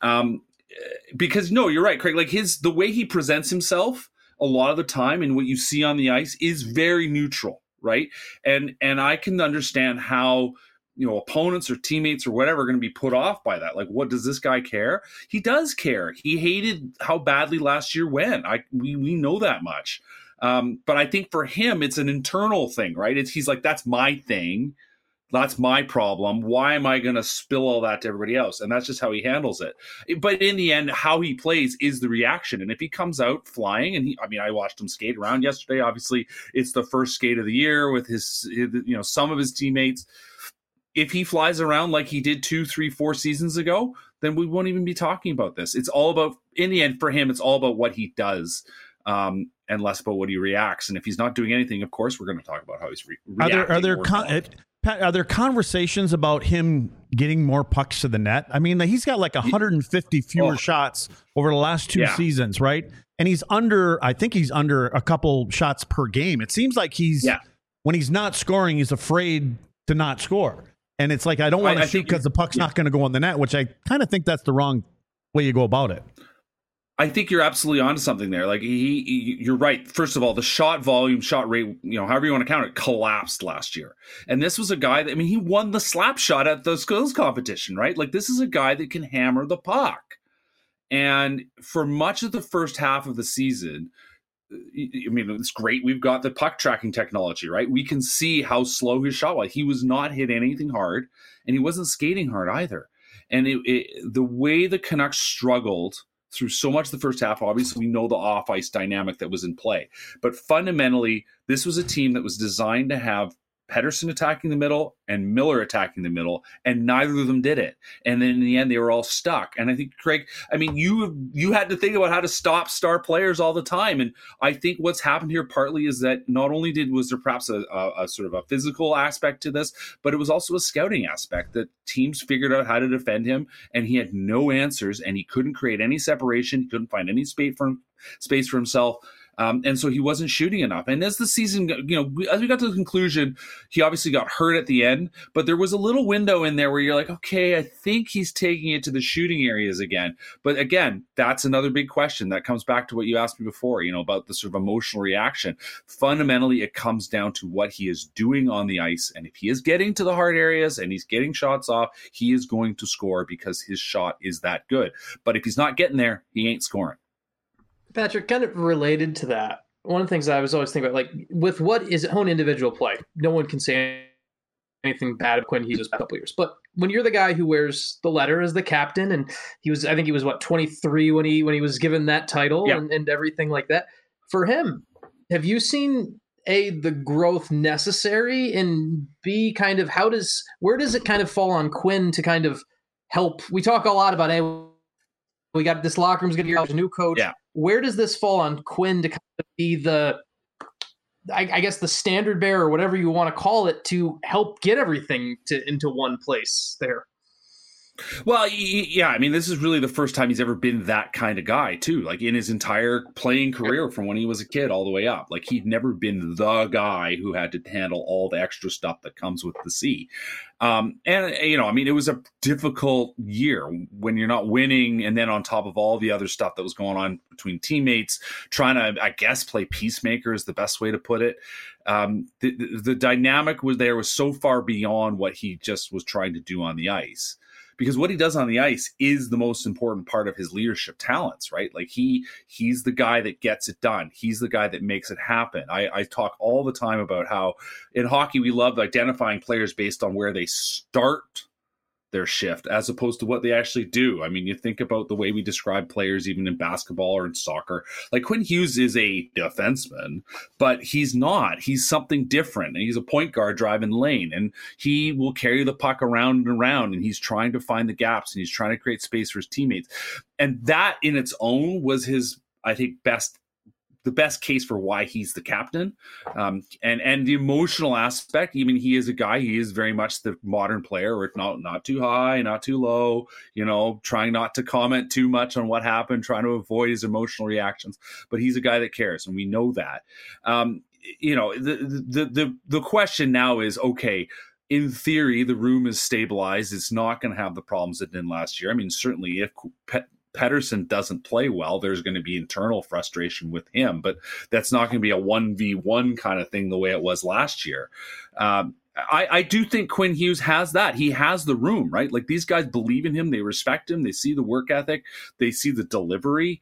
Because no, you're right, Craig, like the way he presents himself a lot of the time and what you see on the ice is very neutral, right? And I can understand how opponents or teammates or whatever are going to be put off by that. Like, what does this guy care? He does care. He hated how badly last year went. We know that much. But I think for him, it's an internal thing, right? He's like, that's my thing. That's my problem. Why am I going to spill all that to everybody else? And that's just how he handles it. But in the end, how he plays is the reaction. And if he comes out flying, and I watched him skate around yesterday. Obviously, it's the first skate of the year with his some of his teammates. If he flies around like he did 2, 3, 4 seasons ago, then we won't even be talking about this. It's all about, in the end, for him, it's all about what he does. and less about what he reacts. And if he's not doing anything, of course, we're going to talk about how he's reacting. Are there conversations about him getting more pucks to the net? I mean, he's got like 150 fewer shots over the last 2 seasons, right? And I think he's under a couple shots per game. It seems like when he's not scoring, he's afraid to not score. And it's like, I don't want to shoot because the puck's not going to go on the net, which I kind of think that's the wrong way you go about it. I think you're absolutely onto something there. Like you're right. First of all, the shot volume, shot rate, however you want to count it, collapsed last year. And this was a guy that, he won the slap shot at the skills competition, right? Like this is a guy that can hammer the puck. And for much of the first half of the season, it's great. We've got the puck tracking technology, right? We can see how slow his shot was. He was not hit anything hard, and he wasn't skating hard either. And the way the Canucks struggled through so much of the first half, obviously we know the off-ice dynamic that was in play. But fundamentally, this was a team that was designed to have Pettersson attacking the middle and Miller attacking the middle, and neither of them did it. And then in the end, they were all stuck. And I think, Craig, you had to think about how to stop star players all the time. And I think what's happened here partly is that not only was there perhaps a sort of a physical aspect to this, but it was also a scouting aspect that teams figured out how to defend him, and he had no answers, and he couldn't create any separation. He couldn't find any space for himself. And so he wasn't shooting enough. And as the season, as we got to the conclusion, he obviously got hurt at the end, but there was a little window in there where you're like, okay, I think he's taking it to the shooting areas again. But again, that's another big question that comes back to what you asked me before, about the sort of emotional reaction. Fundamentally, it comes down to what he is doing on the ice. And if he is getting to the hard areas and he's getting shots off, he is going to score because his shot is that good. But if he's not getting there, he ain't scoring. Patrick, kind of related to that, one of the things I was always thinking about, like with what is own individual play, no one can say anything bad of Quinn Hughes a couple years. But when you're the guy who wears the letter as the captain, and I think he was 23 when he was given that title and everything like that. For him, have you seen the growth necessary, and B, kind of where does it kind of fall on Quinn to kind of help? We talk a lot about we got this locker room's going to get a new coach. Yeah. Where does this fall on Quinn to kind of be I guess the standard bearer, or whatever you want to call it, to help get everything into one place there? Well, yeah, this is really the first time he's ever been that kind of guy, too. Like in his entire playing career from when he was a kid all the way up. Like he'd never been the guy who had to handle all the extra stuff that comes with the C. It was a difficult year when you're not winning, and then on top of all the other stuff that was going on between teammates, trying to, I guess, play peacemaker is the best way to put it. The dynamic was so far beyond what he just was trying to do on the ice. Because what he does on the ice is the most important part of his leadership talents, right? Like he's the guy that gets it done. He's the guy that makes it happen. I talk all the time about how in hockey we love identifying players based on where they start their shift as opposed to what they actually do. You think about the way we describe players even in basketball or in soccer. Like Quinn Hughes is a defenseman, but he's not. He's something different. And he's a point guard driving lane, and he will carry the puck around and around, and he's trying to find the gaps, and he's trying to create space for his teammates. And that in its own was his, I think, the best case for why he's the captain. And the emotional aspect, he is a guy, he is very much the modern player, where it's not too high, not too low, trying not to comment too much on what happened, trying to avoid his emotional reactions. But he's a guy that cares, and we know that. The question now is, okay, in theory, the room is stabilized. It's not going to have the problems it did last year. Certainly if Pettersson doesn't play well, there's going to be internal frustration with him, but that's not going to be a 1v1 kind of thing the way it was last year. I do think Quinn Hughes has that. He has the room, right? Like these guys believe in him. They respect him. They see the work ethic. They see the delivery.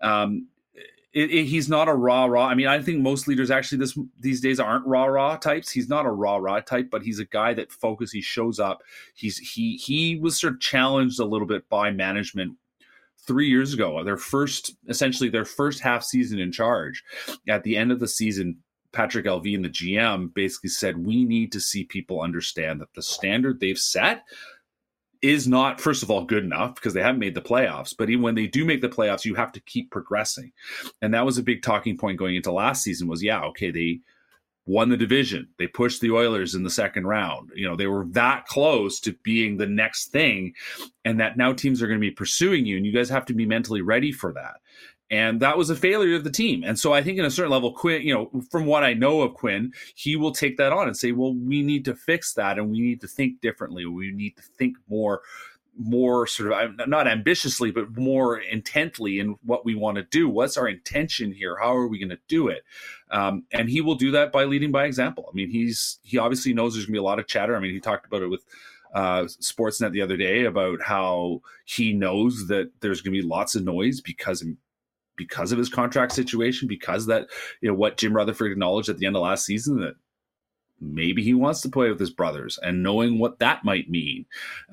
He's not a rah-rah. I think most leaders actually these days aren't rah-rah types. He's not a rah-rah type, but he's a guy that focuses. He shows up. He was sort of challenged a little bit by management 3 years ago, their first half season in charge. At the end of the season, Patrick Allvin, the GM, basically said, we need to see people understand that the standard they've set is not, first of all, good enough because they haven't made the playoffs. But even when they do make the playoffs, you have to keep progressing. And that was a big talking point going into last season was, they won the division. They pushed the Oilers in the second round. They were that close to being the next thing, and that now teams are going to be pursuing you, and you guys have to be mentally ready for that. And that was a failure of the team. And so I think in a certain level, Quinn, from what I know of Quinn, he will take that on and say, well, we need to fix that and we need to think differently. We need to think more sort of, not ambitiously, but more intently in what we want to do. What's our intention here? How are we going to do it? And he will do that by leading by example. I mean, he obviously knows there's going to be a lot of chatter. I mean, he talked about it with Sportsnet the other day about how he knows that there's going to be lots of noise because of his contract situation, because that, what Jim Rutherford acknowledged at the end of last season, that maybe he wants to play with his brothers, and knowing what that might mean.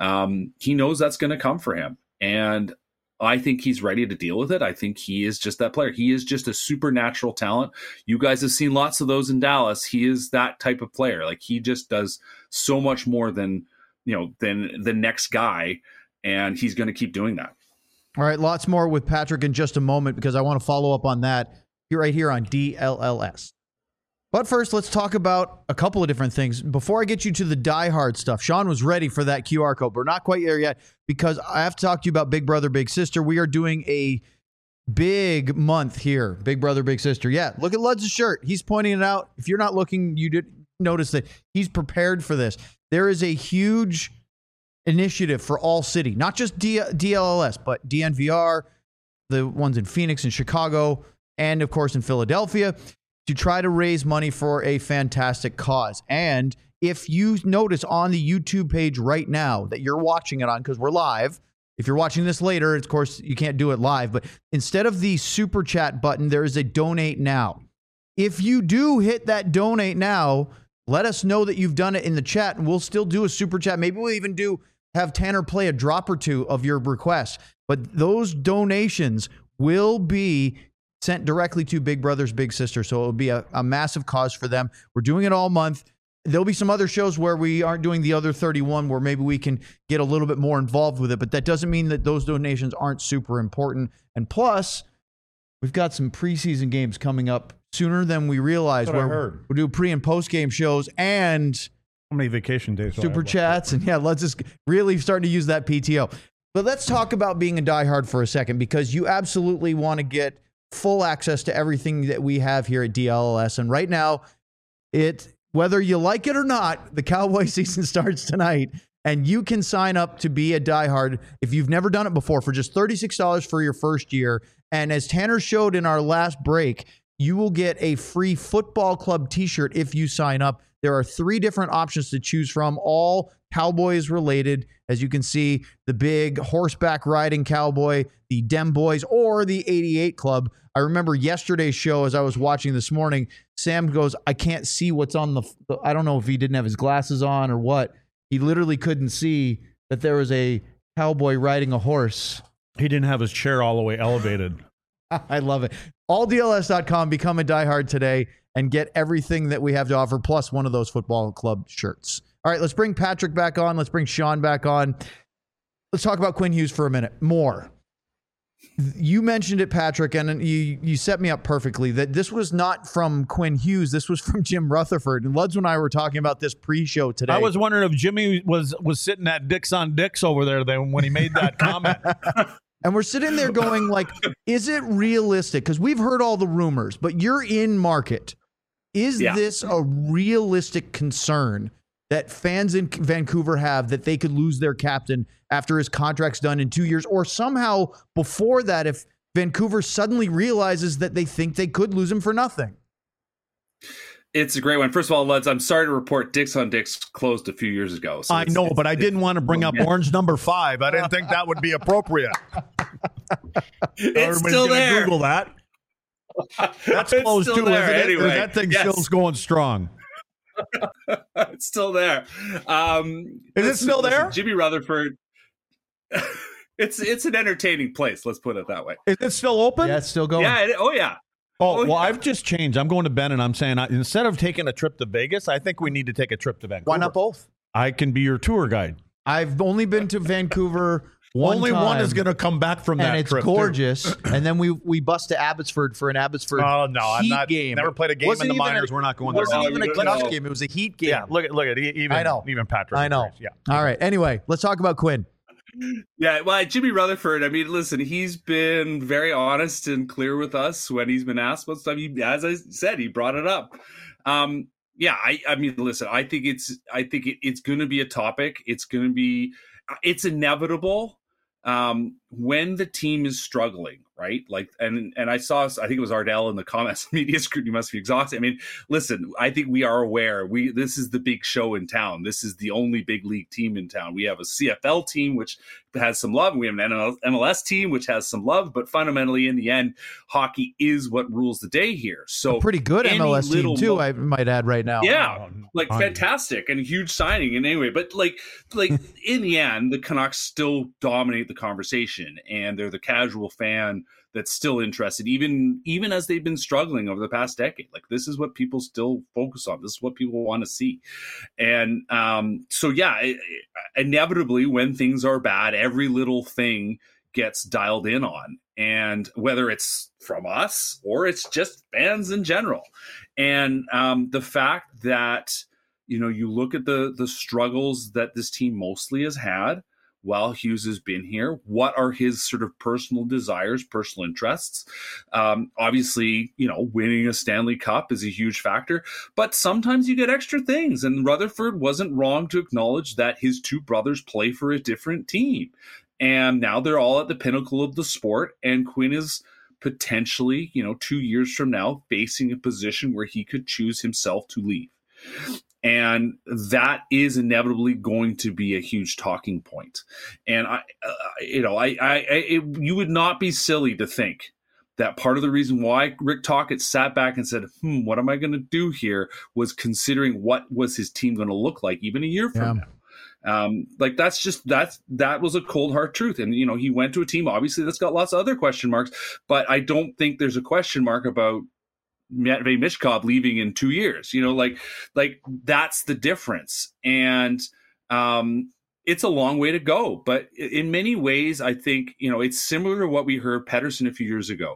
He knows that's going to come for him. And I think he's ready to deal with it. I think he is just that player. He is just a supernatural talent. You guys have seen lots of those in Dallas. He is that type of player. Like, he just does so much more than the next guy. And he's going to keep doing that. All right, lots more with Patrick in just a moment because I want to follow up on that right here on DLLS. But first, let's talk about a couple of different things. Before I get you to the diehard stuff, Sean was ready for that QR code. We're not quite there yet because I have to talk to you about Big Brother, Big Sister. We are doing a big month here, Big Brother, Big Sister. Yeah, look at Ludz's shirt. He's pointing it out. If you're not looking, you did notice that he's prepared for this. There is a huge initiative for all city, not just DLLS, but DNVR, the ones in Phoenix and Chicago, and of course in Philadelphia, to try to raise money for a fantastic cause. And if you notice on the YouTube page right now that you're watching it on, because we're live, if you're watching this later, of course, you can't do it live, but instead of the super chat button, there is a donate now. If you do hit that donate now, let us know that you've done it in the chat, and we'll still do a super chat. Maybe we'll even have Tanner play a drop or two of your requests. But those donations will be sent directly to Big Brothers Big Sisters. So it will be a massive cause for them. We're doing it all month. There'll be some other shows where we aren't doing the other 31 where maybe we can get a little bit more involved with it. But that doesn't mean that those donations aren't super important. And plus, we've got some preseason games coming up sooner than we realize. We'll do pre and post game shows and how many vacation days? Super chats. And let's just really start to use that PTO. But let's talk about being a diehard for a second, because you absolutely want to get full access to everything that we have here at DLLS. And right now, whether you like it or not, the Cowboy season starts tonight, and you can sign up to be a diehard if you've never done it before for just $36 for your first year. And as Tanner showed in our last break, you will get a free football club t-shirt if you sign up. There are 3 different options to choose from, all Cowboys related. As you can see, the big horseback riding cowboy, the Dem Boys, or the 88 Club. I remember yesterday's show as I was watching this morning, Sam goes, I can't see what's on I don't know if he didn't have his glasses on or what. He literally couldn't see that there was a cowboy riding a horse. He didn't have his chair all the way elevated. I love it. AllDLS.com. Become a diehard today and get everything that we have to offer, plus one of those football club shirts. All right, let's bring Patrick back on. Let's bring Sean back on. Let's talk about Quinn Hughes for a minute more. You mentioned it, Patrick, and you set me up perfectly that this was not from Quinn Hughes. This was from Jim Rutherford. And Luds and I were talking about this pre-show today. I was wondering if Jimmy was sitting at Dicks on Dicks over there then when he made that comment. And we're sitting there going, like, is it realistic? Because we've heard all the rumors, but you're in market. Is this a realistic concern that fans in Vancouver have, that they could lose their captain after his contract's done in 2 years? Or somehow before that, if Vancouver suddenly realizes that they think they could lose him for nothing? It's a great one. First of all, Luds, I'm sorry to report Dicks on Dicks closed a few years ago. So I know, but I didn't want to bring up orange number 5. I didn't think that would be appropriate. It's still there. Google that. That's closed too, there, isn't it? anyway. Or that thing's still going strong. It's still there. Is it still there? Jimmy Rutherford. It's an entertaining place. Let's put it that way. Is it still open? Yeah, it's still going. Yeah. Oh, well, I've just changed. I'm going to Ben and I'm saying instead of taking a trip to Vegas, I think we need to take a trip to Vancouver. Why not both? I can be your tour guide. I've only been to Vancouver Only time, one is going to come back from that and it's trip, gorgeous. And then we bust to Abbotsford for an Abbotsford Heat game. Never played a game in the minors. We're not going there. It wasn't even a Canucks game. It was a Heat game. Yeah, look at even Patrick. I know. Yeah. All right. Anyway, let's talk about Quinn. Yeah, well, Jimmy Rutherford, I mean, listen, he's been very honest and clear with us when he's been asked about stuff. As I said, he brought it up. Yeah, I mean, listen, I think it's going to be a topic. It's inevitable when the team is struggling, right? Like, and I think it was Ardell in the comments, media scrutiny must be exhausted. I mean, listen, I think we are aware. This is the big show in town. This is the only big league team in town. We have a CFL team, which has some love. We have an MLS team, which has some love, but fundamentally in the end, hockey is what rules the day here. So a pretty good MLS team too, I might add right now. Yeah, like fantastic and a huge signing. And anyway, but like in the end, the Canucks still dominate the conversation, and they're the casual fan that's still interested, even as they've been struggling over the past decade. Like, this is what people still focus on. This is what people want to see. And so, yeah, inevitably, when things are bad, every little thing gets dialed in on. And whether it's from us or it's just fans in general. And the fact that, you look at the struggles that this team mostly has had while Hughes has been here, what are his sort of personal desires, personal interests? Obviously, winning a Stanley Cup is a huge factor, but sometimes you get extra things. And Rutherford wasn't wrong to acknowledge that his two brothers play for a different team. And now they're all at the pinnacle of the sport. And Quinn is potentially, 2 years from now, facing a position where he could choose himself to leave. And that is inevitably going to be a huge talking point. And you would not be silly to think that part of the reason why Rick Tocchet sat back and said, what am I going to do here, was considering what was his team going to look like even a year from now. That was a cold hard truth. And, he went to a team, obviously, that's got lots of other question marks, but I don't think there's a question mark about Matvei Michkov leaving in 2 years. Like that's the difference. And it's a long way to go, but in many ways, I think, it's similar to what we heard Pettersson a few years ago.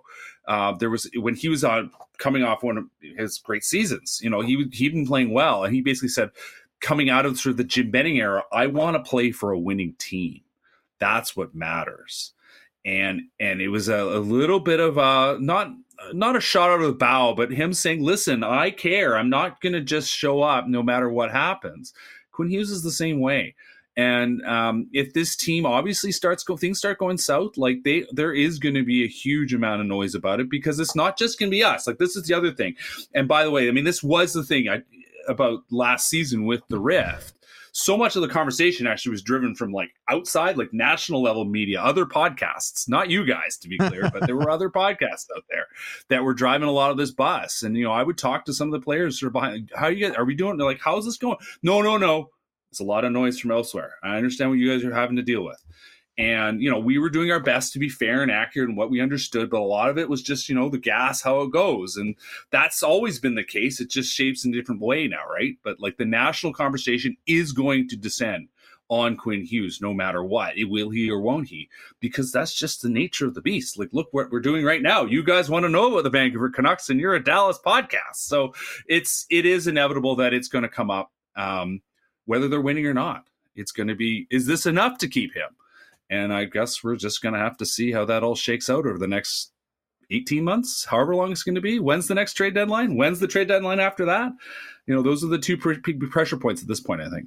When he was coming off one of his great seasons, he'd been playing well, and he basically said, coming out of sort of the Jim Benning era, I want to play for a winning team. That's what matters. And it was a little bit of not a shot out of the bow, but him saying, listen, I care. I'm not going to just show up no matter what happens. Quinn Hughes is the same way. And if this team obviously things start going south, like there is going to be a huge amount of noise about it, because it's not just going to be us. Like, this is the other thing. And by the way, I mean, this was the thing about last season with the Rift. So much of the conversation actually was driven from like outside, like national level media, other podcasts, not you guys, to be clear, but there were other podcasts out there that were driving a lot of this bus. And, I would talk to some of the players sort of behind, how you guys, are we doing? They're like, how's this going? No. It's a lot of noise from elsewhere. I understand what you guys are having to deal with. And, we were doing our best to be fair and accurate in what we understood, but a lot of it was just, the gas, how it goes. And that's always been the case. It just shapes in a different way now, right? But like, the national conversation is going to descend on Quinn Hughes no matter what. Will he or won't he? Because that's just the nature of the beast. Like, look what we're doing right now. You guys want to know about the Vancouver Canucks, and you're a Dallas podcast. So it is inevitable that it's going to come up, whether they're winning or not. It's going to be, is this enough to keep him? And I guess we're just going to have to see how that all shakes out over the next 18 months, however long it's going to be. When's the next trade deadline? When's the trade deadline after that? Those are the two pressure points at this point, I think.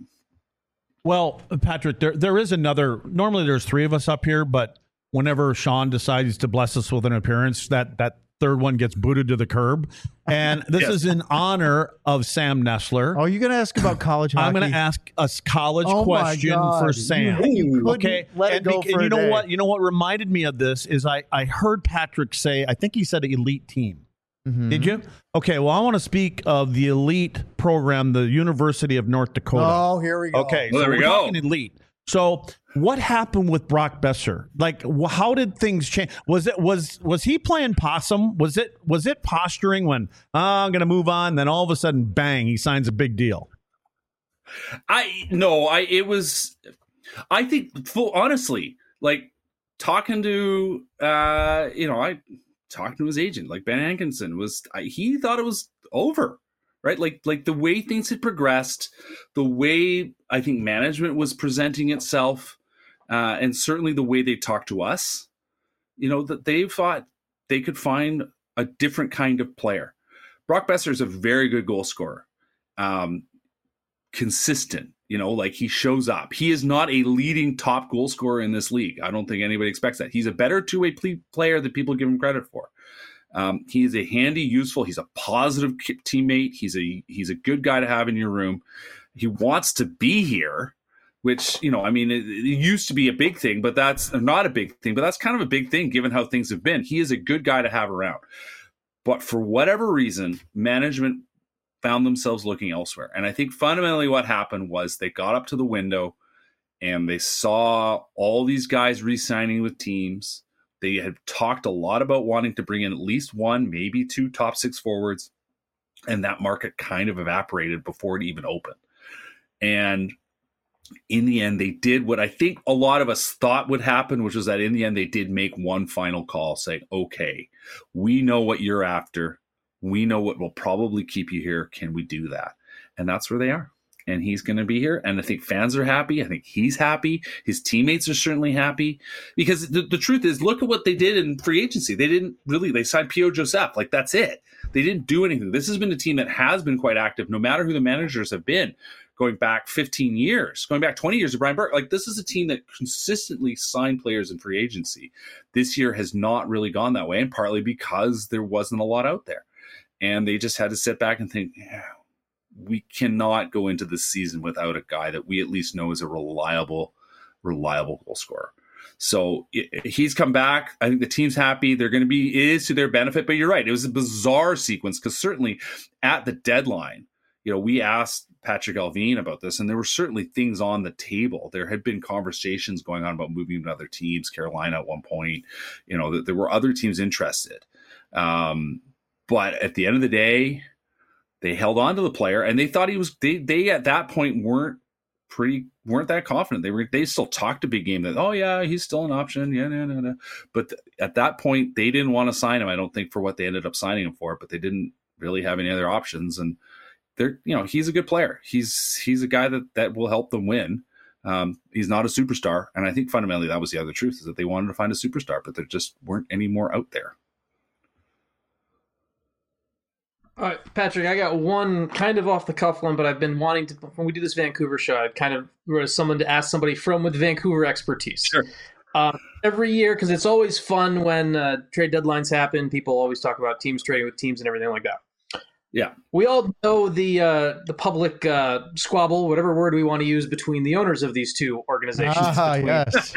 Well, Patrick, there is another. Normally there's three of us up here, but whenever Sean decides to bless us with an appearance, that third one gets booted to the curb. And this is in honor of Sam Nestler. Oh, you're going to ask about college hockey? I'm going to ask a college question for Sam. Okay. Let it go for you know what? You know what reminded me of this is I heard Patrick say, I think he said elite team. Mm-hmm. Did you? Okay, well, I want to speak of the elite program, the University of North Dakota. Oh, here we go. Okay, well, so there we go. Talking elite. So what happened with Brock Besser? Like, how did things change? Was he playing possum? Was it posturing when I'm going to move on? Then all of a sudden, bang, he signs a big deal. It was I think, honestly, like talking to, I talked to his agent, like Ben Hankinson he thought it was over, right? Like the way things had progressed, the way I think management was presenting itself, and certainly the way they talked to us, that they thought they could find a different kind of player. Brock Boeser is a very good goal scorer. Consistent, like he shows up. He is not a leading top goal scorer in this league. I don't think anybody expects that. He's a better two-way player than people give him credit for. He is a handy, useful, he's a positive teammate. He's a good guy to have in your room. He wants to be here, which, it used to be a big thing, but that's not a big thing, but that's kind of a big thing given how things have been. He is a good guy to have around. But for whatever reason, management found themselves looking elsewhere. And I think fundamentally what happened was they got up to the window and they saw all these guys re-signing with teams. They had talked a lot about wanting to bring in at least one, maybe two top six forwards. And that market kind of evaporated before it even opened. And in the end, they did what I think a lot of us thought would happen, which was that in the end, they did make one final call saying, okay, we know what you're after. We know what will probably keep you here. Can we do that? And that's where they are. And he's going to be here. And I think fans are happy. I think he's happy. His teammates are certainly happy. Because the truth is, look at what they did in free agency. They signed P.O. Joseph. Like, that's it. They didn't do anything. This has been a team that has been quite active, no matter who the managers have been, going back 15 years, going back 20 years to Brian Burke. Like, this is a team that consistently signed players in free agency. This year has not really gone that way, and partly because there wasn't a lot out there. And they just had to sit back and think, we cannot go into this season without a guy that we at least know is a reliable goal scorer. So he's come back. I think the team's happy. They're going to be, it is to their benefit, but you're right. It was a bizarre sequence because certainly at the deadline, we asked Patrick Allvin about this, and there were certainly things on the table. There had been conversations going on about moving to other teams, Carolina at one point, that there were other teams interested. But at the end of the day, they held on to the player, and they thought they at that point weren't that confident. They still talked a big game that, oh yeah, he's still an option. Yeah, no. But at that point, they didn't want to sign him. I don't think for what they ended up signing him for, but they didn't really have any other options. And he's a good player. He's a guy that will help them win. He's not a superstar. And I think fundamentally that was the other truth, is that they wanted to find a superstar, but there just weren't any more out there. All right, Patrick, I got one kind of off the cuff one, but I've been wanting to, when we do this Vancouver show, I'd kind of someone to ask somebody with Vancouver expertise. Sure. Every year, because it's always fun when trade deadlines happen. People always talk about teams trading with teams and everything like that. Yeah. We all know the public squabble, whatever word we want to use, between the owners of these two organizations. Yes.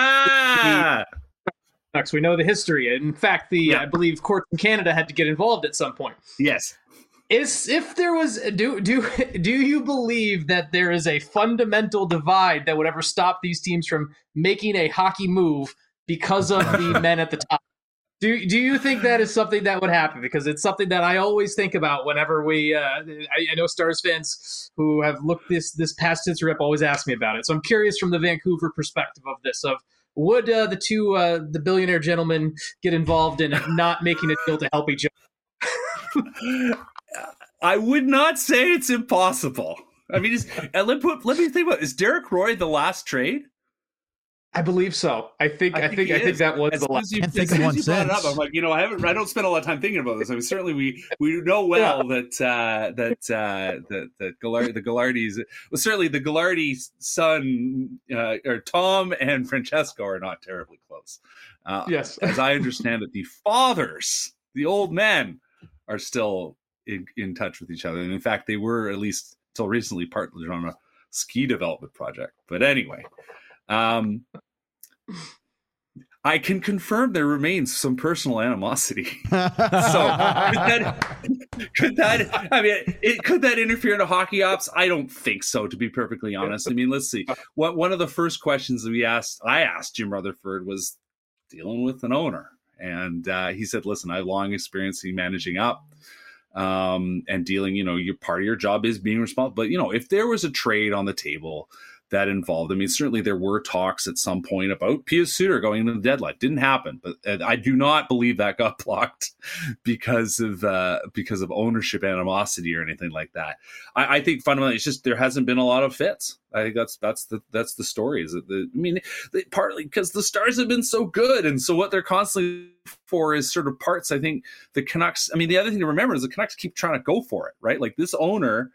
We know the history. In fact, I believe courts in Canada had to get involved at some point. Yes. If there was, do you believe that there is a fundamental divide that would ever stop these teams from making a hockey move because of the men at the top? Do you think that is something that would happen? Because it's something that I always think about whenever we. I know Stars fans who have looked this past history up always ask me about it. So I'm curious from the Vancouver perspective of this. Would the billionaire gentlemen get involved in not making a deal to help each other? I would not say it's impossible. I mean, let me think about it. Is Derek Roy the last trade? I believe so. I think that was the last. I can't think of one since. I'm like, I don't spend a lot of time thinking about this. I mean, certainly we know well that the Ghilardi's, well, certainly the Ghilardi son, or Tom and Francesco are not terribly close. Yes, as I understand it, the fathers, the old men, are still in touch with each other, and in fact, they were, at least until recently, partnered on a ski development project. But anyway. I can confirm there remains some personal animosity. So could that interfere in hockey ops? I don't think so, to be perfectly honest. I mean, let's see. One of the first questions that I asked Jim Rutherford was dealing with an owner. And he said, listen, I have long experience in managing up and dealing, your part of your job is being responsible. But, if there was a trade on the table that involved. I mean, certainly there were talks at some point about Pius Suter going into the deadline. Didn't happen, but I do not believe that got blocked because of ownership animosity or anything like that. I think fundamentally it's just there hasn't been a lot of fits. I think that's the story. Is that partly because the Stars have been so good, and so what they're constantly for is sort of parts. I think the Canucks. I mean, the other thing to remember is the Canucks keep trying to go for it, right? Like this owner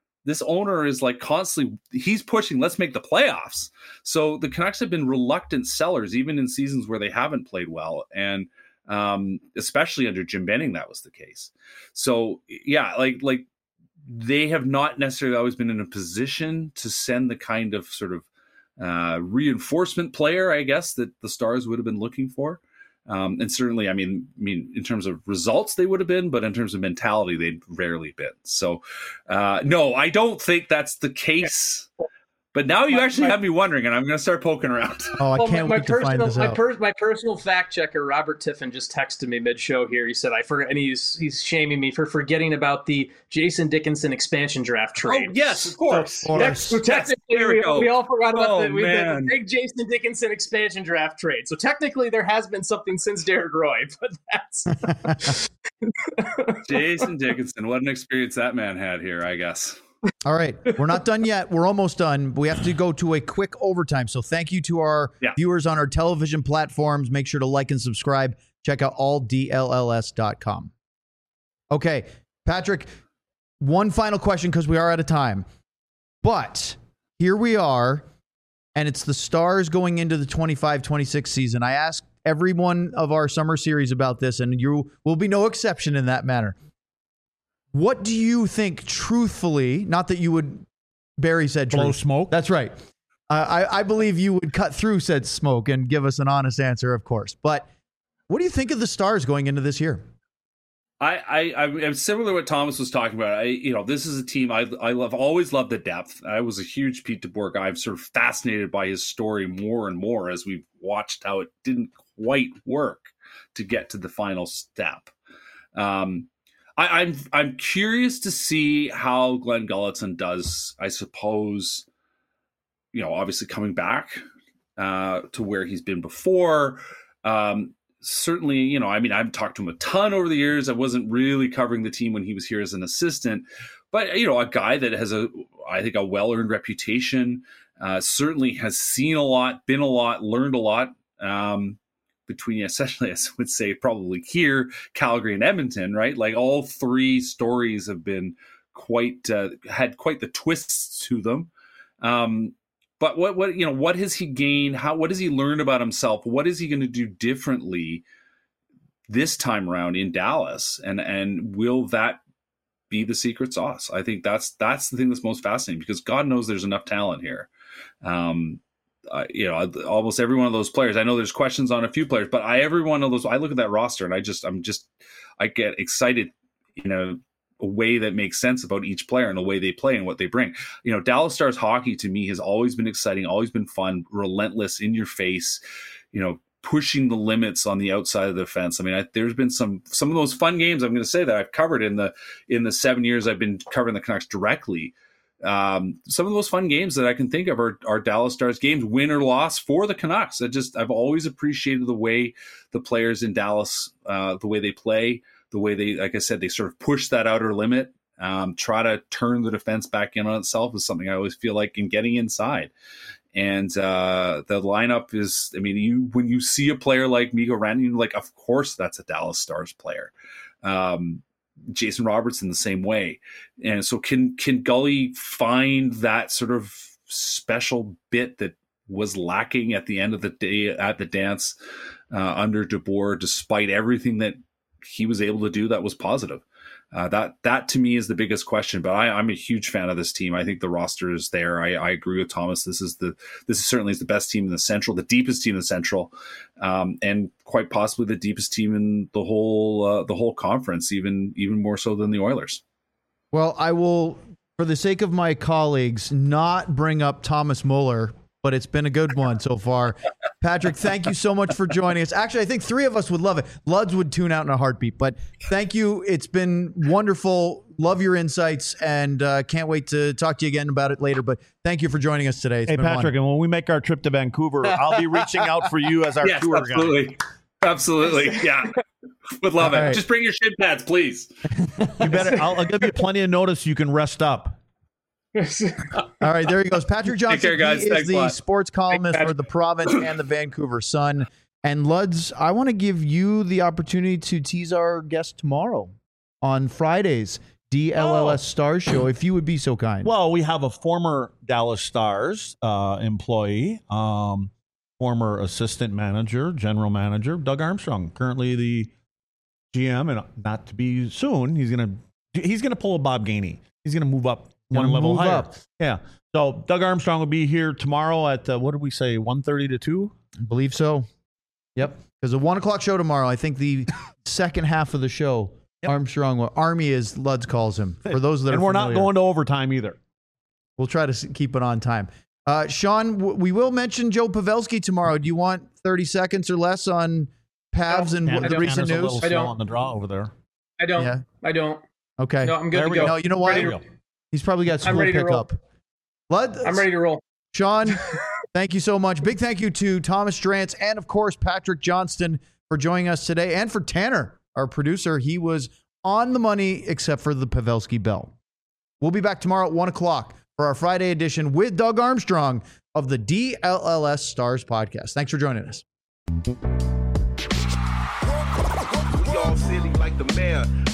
is like constantly, he's pushing, let's make the playoffs. So the Canucks have been reluctant sellers, even in seasons where they haven't played well. And especially under Jim Benning, that was the case. So yeah, like they have not necessarily always been in a position to send the kind of sort of reinforcement player, I guess, that the Stars would have been looking for. And certainly, I mean, in terms of results, they would have been, but in terms of mentality, they'd rarely been. So, no, I don't think that's the case. But now you actually have me wondering, and I'm going to start poking around. Oh, I can't wait to find this out. My personal fact checker, Robert Tiffin, just texted me mid-show here. He said, I forgot, and he's shaming me for forgetting about the Jason Dickinson expansion draft trade. Oh, yes, of course. So technically, we all forgot about the big Jason Dickinson expansion draft trade. So technically, there has been something since Derek Roy, but that's... Jason Dickinson, what an experience that man had here, I guess. All right. We're not done yet. We're almost done. We have to go to a quick overtime. So thank you to our viewers on our television platforms. Make sure to like and subscribe. Check out alldlls.com. Okay. Patrick, one final question because we are out of time. But here we are, and it's the Stars going into the 25-26 season. I asked every one of our summer series about this, and you will be no exception in that manner. What do you think, truthfully, not that you would, Barry said blow smoke? That's right. I believe you would cut through said smoke and give us an honest answer, of course. But what do you think of the Stars going into this year? I'm similar to what Thomas was talking about. This is a team I always loved the depth. I was a huge Pete DeBoer guy. I'm sort of fascinated by his story more and more as we've watched how it didn't quite work to get to the final step. I'm curious to see how Glenn Gulutzan does, I suppose, obviously coming back to where he's been before. Certainly, I've talked to him a ton over the years. I wasn't really covering the team when he was here as an assistant, but, a guy that has I think a well-earned reputation, certainly has seen a lot, been a lot, learned a lot, between, essentially, I would say, probably here, Calgary and Edmonton, right? Like all three stories have been had quite the twists to them. But what has he gained? What has he learned about himself? What is he going to do differently this time around in Dallas? And will that be the secret sauce? I think that's the thing that's most fascinating, because God knows there's enough talent here. Almost every one of those players, I know there's questions on a few players, but every one of those, I look at that roster and I get excited in a way that makes sense about each player and the way they play and what they bring. Dallas Stars hockey to me has always been exciting, always been fun, relentless, in your face, pushing the limits on the outside of the fence. I mean, there's been some of those fun games, I'm going to say, that I've covered in the 7 years I've been covering the Canucks directly. Some of those fun games that I can think of are Dallas Stars games, win or loss for the Canucks. I've always appreciated the way the players in Dallas, the way they play, the way they, like I said, they sort of push that outer limit, try to turn the defense back in on itself is something I always feel like in getting inside. And the lineup is, when you see a player like Mikko Rantanen, like, of course that's a Dallas Stars player. Jason Robertson the same way. And so can Gully find that sort of special bit that was lacking at the end of the day at the dance under DeBoer, despite everything that he was able to do that was positive? That to me is the biggest question, but I'm a huge fan of this team. I think the roster is there. I agree with Thomas. This is certainly the best team in the Central, the deepest team in the Central, and quite possibly the deepest team in the whole conference, even more so than the Oilers. Well, I will, for the sake of my colleagues, not bring up Thomas Muller, but it's been a good one so far. Patrick, thank you so much for joining us. Actually, I think 3 of us would love it. Luds would tune out in a heartbeat, but thank you. It's been wonderful. Love your insights, and can't wait to talk to you again about it later. But thank you for joining us today. Hey, Patrick, and when we make our trip to Vancouver, I'll be reaching out for you as our tour guide. Absolutely. Yeah. Would love it. Just bring your shin pads, please. You better. I'll give you plenty of notice. You can rest up. All right, there he goes. Patrick Johnson. Take care, guys. He is the sports columnist for the Province and the Vancouver Sun. And Luds, I want to give you the opportunity to tease our guest tomorrow on Friday's DLLS Stars show, if you would be so kind. Well, we have a former Dallas Stars employee, former assistant manager, general manager, Doug Armstrong, currently the GM, and not to be soon, he's gonna pull a Bob Gainey. He's gonna move up one level higher. Yeah. So Doug Armstrong will be here tomorrow at what did we say, 1:30 to 2? I believe so. Yep. Because a 1 o'clock show tomorrow. I think the second half of the show, Armstrong, Army as Luds calls him. For those that are we're familiar. not going to overtime either. We'll try to keep it on time. Sean, we will mention Joe Pavelski tomorrow. Do you want 30 seconds or less on Pavs and the recent news? I don't. On the draw over there. I don't. Yeah. I don't. Okay. No, I'm good to go. No, you know what? He's probably got school pickup. I'm ready to roll. Sean, thank you so much. Big thank you to Thomas Drance and, of course, Patrick Johnston for joining us today, and for Tanner, our producer. He was on the money except for the Pavelski bell. We'll be back tomorrow at 1 o'clock for our Friday edition with Doug Armstrong of the DLLS Stars podcast. Thanks for joining us. We all silly like the mayor.